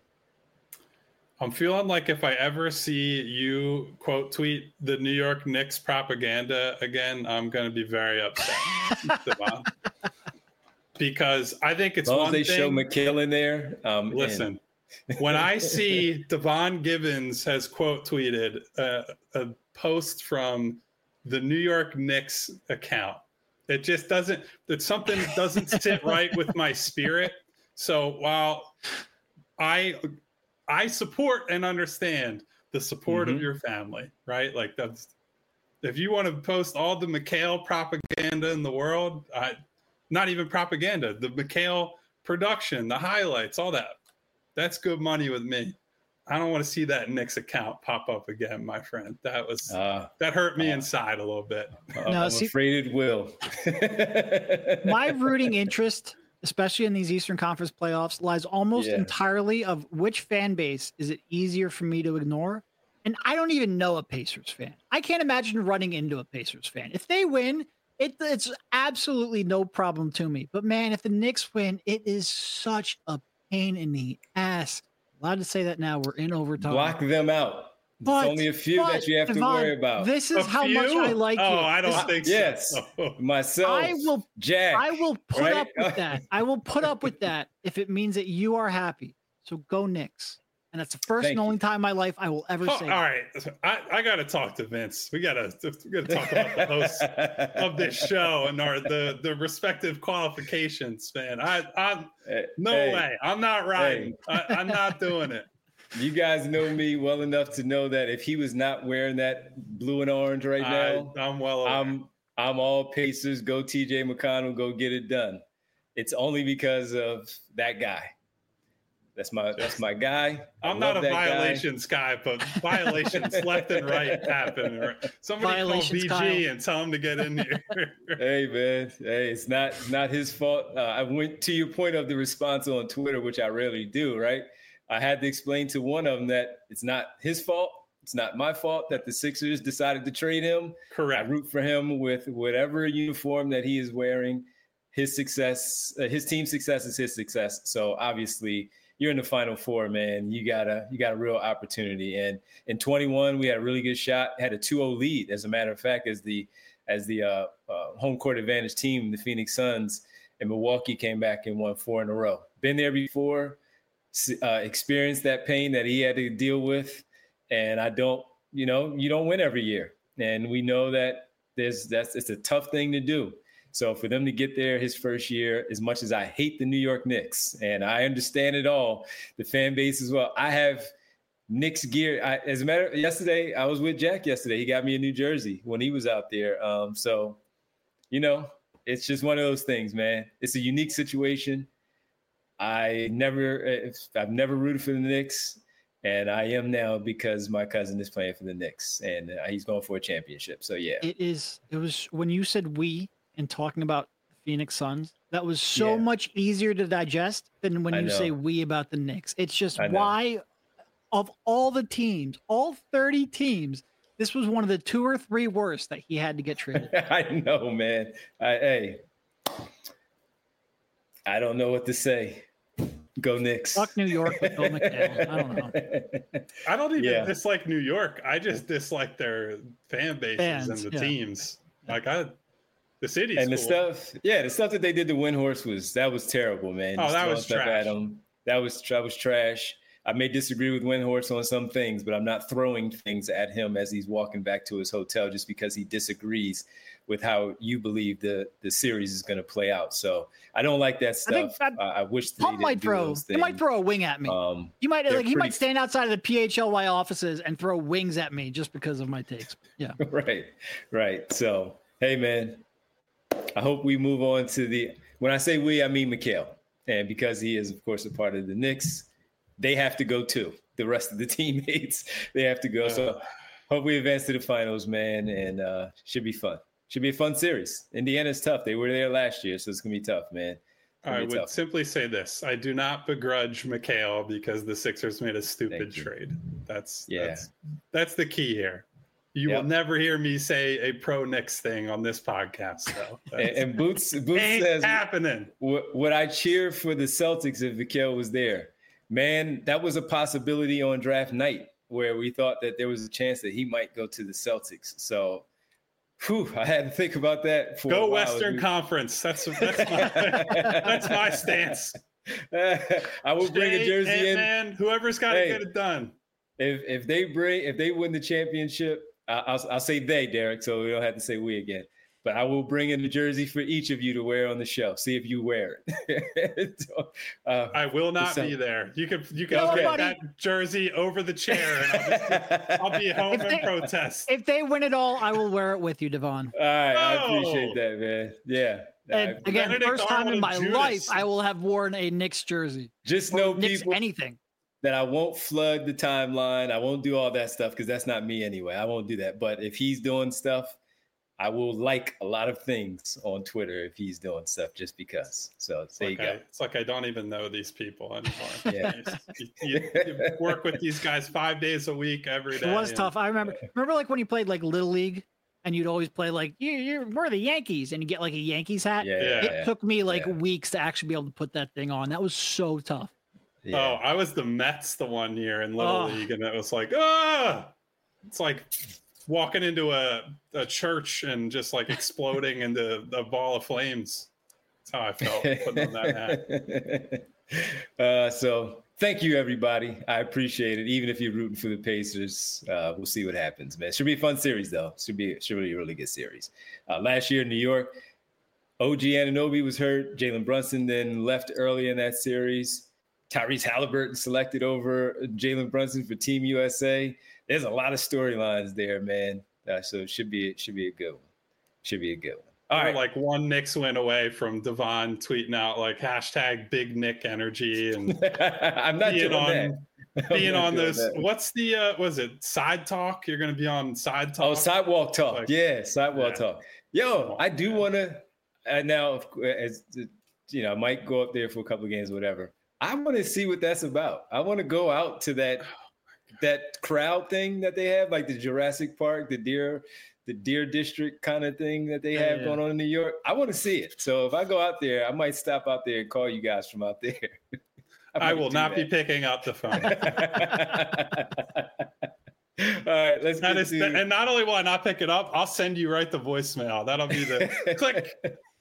I'm feeling like if I ever see you quote tweet the New York Knicks propaganda again, I'm going to be very upset. Because I think it's one thing. As long as they show McHale in there. Listen, when I see Devon Gibbons has quote tweeted a post from the New York Knicks account, it just doesn't, that something doesn't sit right with my spirit. So while I support and understand the support of your family, right? Like that's, if you want to post all the McHale propaganda in the world, not even propaganda, the McHale production, the highlights, all that, that's good money with me. I don't want to see that Knicks account pop up again, my friend. That was that hurt me inside a little bit. I'm afraid it will. My rooting interest, especially in these Eastern Conference playoffs, lies almost entirely of which fan base is it easier for me to ignore. And I don't even know a Pacers fan. I can't imagine running into a Pacers fan. If they win, it's absolutely no problem to me. But man, if the Knicks win, it is such a pain in the ass. Allowed to say that now. We're in overtime. Block them out. But, it's only a few that you have to worry about. This is how much I like you. Oh, I don't think so. Yes. Myself. Jack. I will put right? up with that. I will put up with that if it means that you are happy. So go Knicks. And that's the first and only time in my life I will ever say. All right, I got to talk to Vince. We got to talk about the hosts of this show and the respective qualifications, man. I'm no way. I'm not riding. I'm not doing it. You guys know me well enough to know that if he was not wearing that blue and orange right now, I'm well aware. I'm all Pacers. Go TJ McConnell. Go get it done. It's only because of that guy. That's my guy. I'm not a violations guy, but violations left and right happen. Somebody call BG Kyle. And tell him to get in here. Hey man, hey, it's not his fault. I went to your point of the response on Twitter, which I rarely do. Right, I had to explain to one of them that it's not his fault. It's not my fault that the Sixers decided to trade him. Correct. I root for him with whatever uniform that he is wearing. His success, his team's success is his success. So obviously, you're in the Final Four, man. You got a real opportunity. And in 21, we had a really good shot. Had a 2-0 lead, as a matter of fact, as the home court advantage team, the Phoenix Suns, and Milwaukee came back and won 4 in a row. Been there before, experienced that pain that he had to deal with. And you don't win every year. And we know that it's a tough thing to do. So for them to get there his first year, as much as I hate the New York Knicks, and I understand it all, the fan base as well. I have Knicks gear. Yesterday, I was with Jack yesterday. He got me a New Jersey when he was out there. So, it's just one of those things, man. It's a unique situation. I've never rooted for the Knicks, and I am now because my cousin is playing for the Knicks, and he's going for a championship. So, yeah. It was when you said we, and talking about the Phoenix Suns, that was so much easier to digest than when you say we about the Knicks. It's just why, of all the teams, all 30 teams, this was one of the 2 or 3 worst that he had to get traded. I know, man. I don't know what to say. Go Knicks. Fuck New York with Bill McHale. I don't know. I don't even dislike New York. I just dislike their fan bases and the teams. The city's and the cool. the stuff that they did to Windhorst was terrible, man. Oh, that was trash. That was trash. I may disagree with Windhorst on some things, but I'm not throwing things at him as he's walking back to his hotel just because he disagrees with how you believe the series is going to play out. So I don't like that stuff. I wish Pump might throw a wing at me. He might stand outside of the PHLY offices and throw wings at me just because of my takes. Yeah. Right. So, hey, man. I hope we move on to when I say we, I mean McHale. And because he is, of course, a part of the Knicks, they have to go too. The rest of the teammates, they have to go. So hope we advance to the finals, man. And should be fun. Should be a fun series. Indiana's tough. They were there last year, so it's going to be tough, man. I would simply say this. I do not begrudge McHale because the Sixers made a stupid trade. That's the key here. You will never hear me say a pro Knicks thing on this podcast. So and Boots says happening. Would I cheer for the Celtics if McHale was there? Man, that was a possibility on draft night where we thought that there was a chance that he might go to the Celtics. So, I had to think about that. Go Western Conference. That's my stance. I will bring a jersey in. Man, whoever's got to get it done. If they win the championship. I'll say they, Derek, so we don't have to say we again. But I will bring in a jersey for each of you to wear on the show. See if you wear it. I will not be there. You can put that jersey over the chair, and I'll be home and protest. If they win it all, I will wear it with you, Devon. All right, I appreciate that, man. Yeah. And again, first time in my life, I will have worn a Knicks jersey. Just know people anything. That I won't flood the timeline. I won't do all that stuff because that's not me anyway. I won't do that. But if he's doing stuff, I will like a lot of things on Twitter if he's doing stuff just because. So there you go. It's like I don't even know these people anymore. Yeah. you work with these guys 5 days a week, every day. It was tough. I remember like when you played like Little League and you'd always play like, we're the Yankees, and you get like a Yankees hat. It took me like weeks to actually be able to put that thing on. That was so tough. Yeah. Oh, I was the Mets the one year in Little League, and it was like, it's like walking into a church and just like exploding into a ball of flames. That's how I felt putting on that hat. So thank you, everybody. I appreciate it. Even if you're rooting for the Pacers, we'll see what happens, man. Should be a fun series, though. Should be a really good series. Last year in New York, OG Anunoby was hurt. Jalen Brunson then left early in that series. Tyrese Halliburton selected over Jalen Brunson for Team USA. There's a lot of storylines there, man. So it should be a good one. Should be a good one. All right. Like one Knicks win away from Devon tweeting out like hashtag Big Nick energy, and I'm not being on those. What's the was it Side Talk? You're going to be on Side Talk. Oh, Sidewalk Talk. Sidewalk Talk. Yo, I do want to now, as you know, I might go up there for a couple of games, or whatever. I want to see what that's about. I want to go out to that crowd thing that they have, like the Jurassic Park, the Deer District kind of thing that they have going on in New York. I want to see it. So if I go out there, I might stop out there and call you guys from out there. I will not be picking up the phone. All right, let's get to... And not only will I not pick it up, I'll send you right the voicemail. That'll be the click.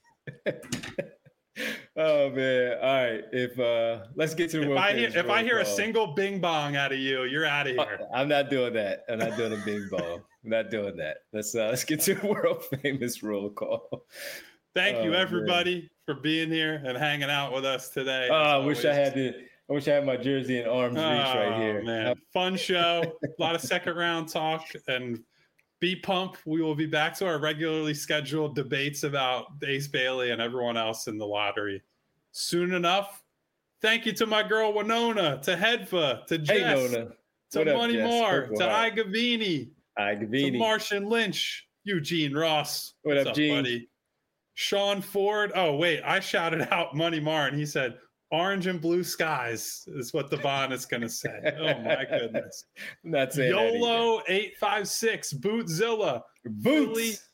Oh man! All right, let's get to the if I hear a single bing bong out of you, you're out of here. I'm not doing that. I'm not doing a bing bong. I'm not doing that. Let's get to the world famous roll call. Thank you everybody for being here and hanging out with us today. I wish I had my jersey in arm's reach right here. Man, fun show. A lot of second round talk and. Be pump. We will be back to our regularly scheduled debates about Ace Bailey and everyone else in the lottery soon enough. Thank you to my girl Winona, to Hedva, to Jess, to Money Moore, to Igavini, to Martian Lynch, Eugene Ross. What's up, Gene? Buddy? Sean Ford. Oh, wait, I shouted out Money Moore and he said, orange and blue skies is what Devon is going to say. Oh, my goodness. I'm not saying YOLO 856, Bootzilla, Boots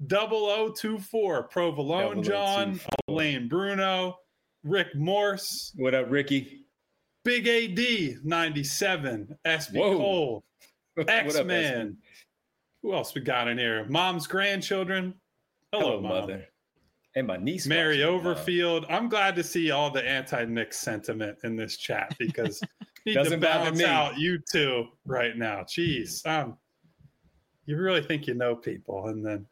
0024, Provolone John, Elaine Bruno, Rick Morse. What up, Ricky? Big AD 97, SB Cole, X-Man. Who else we got in here? Mom's grandchildren. Hello, Mother. And my niece, Mary Overfield. I'm glad to see all the anti-Knicks sentiment in this chat because need to balance out you two right now. Jeez, you really think you know people, and then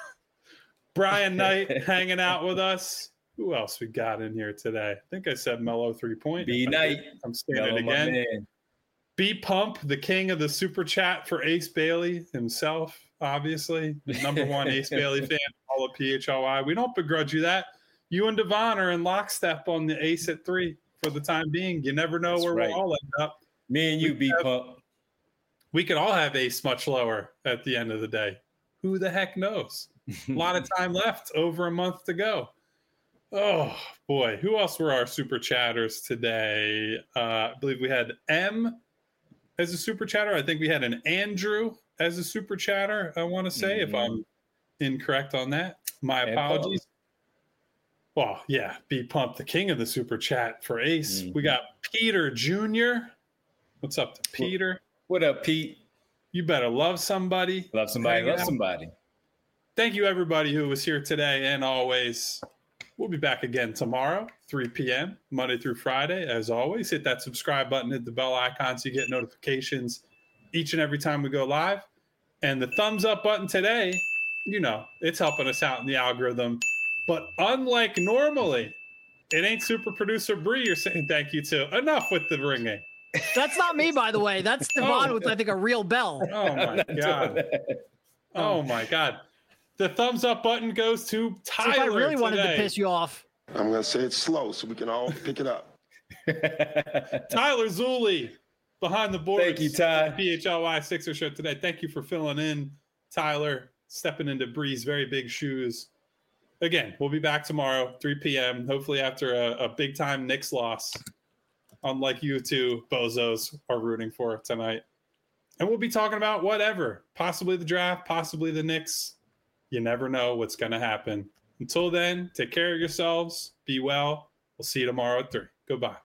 Brian Knight hanging out with us. Who else we got in here today? I think I said Mellow 3-point. B Knight. I'm saying it again. B Pump, the king of the super chat for Ace Bailey himself. Obviously, the number one Ace Bailey fan, all of PHLY. We don't begrudge you that. You and Devon are in lockstep on the Ace at 3 for the time being. You never know where we'll all end up. Me and you, B-Pump. We could all have Ace much lower at the end of the day. Who the heck knows? A lot of time left, over a month to go. Oh, boy. Who else were our super chatters today? I believe we had M as a super chatter. I think we had an Andrew as a super chatter, I want to say, if I'm incorrect on that. My apologies. Well, yeah, B Pump, the king of the super chat for Ace. We got Peter Jr. What's up to Peter? What up, Pete? You better love somebody. Love somebody. Love somebody. Thank you, everybody who was here today. And always, we'll be back again tomorrow, 3 p.m., Monday through Friday. As always, hit that subscribe button, hit the bell icon so you get notifications each and every time we go live. And the thumbs up button today, you know, it's helping us out in the algorithm. But unlike normally, it ain't super producer Bree you're saying thank you to. Enough with the ringing. That's not me, by the way. That's Devon with, I think, a real bell. Oh, my God. Oh, my God. The thumbs up button goes to Tyler. So if I really today. wanted to piss you off. I'm going to say it slow so we can all pick it up. Tyler Zulli. Behind the boards. Thank you, Ty. PHLY Sixer Show today. Thank you for filling in, Tyler, stepping into Bree's very big shoes. Again, we'll be back tomorrow, 3 p.m., hopefully after a big-time Knicks loss, unlike you two bozos are rooting for tonight. And we'll be talking about whatever, possibly the draft, possibly the Knicks. You never know what's going to happen. Until then, take care of yourselves. Be well. We'll see you tomorrow at 3. Goodbye.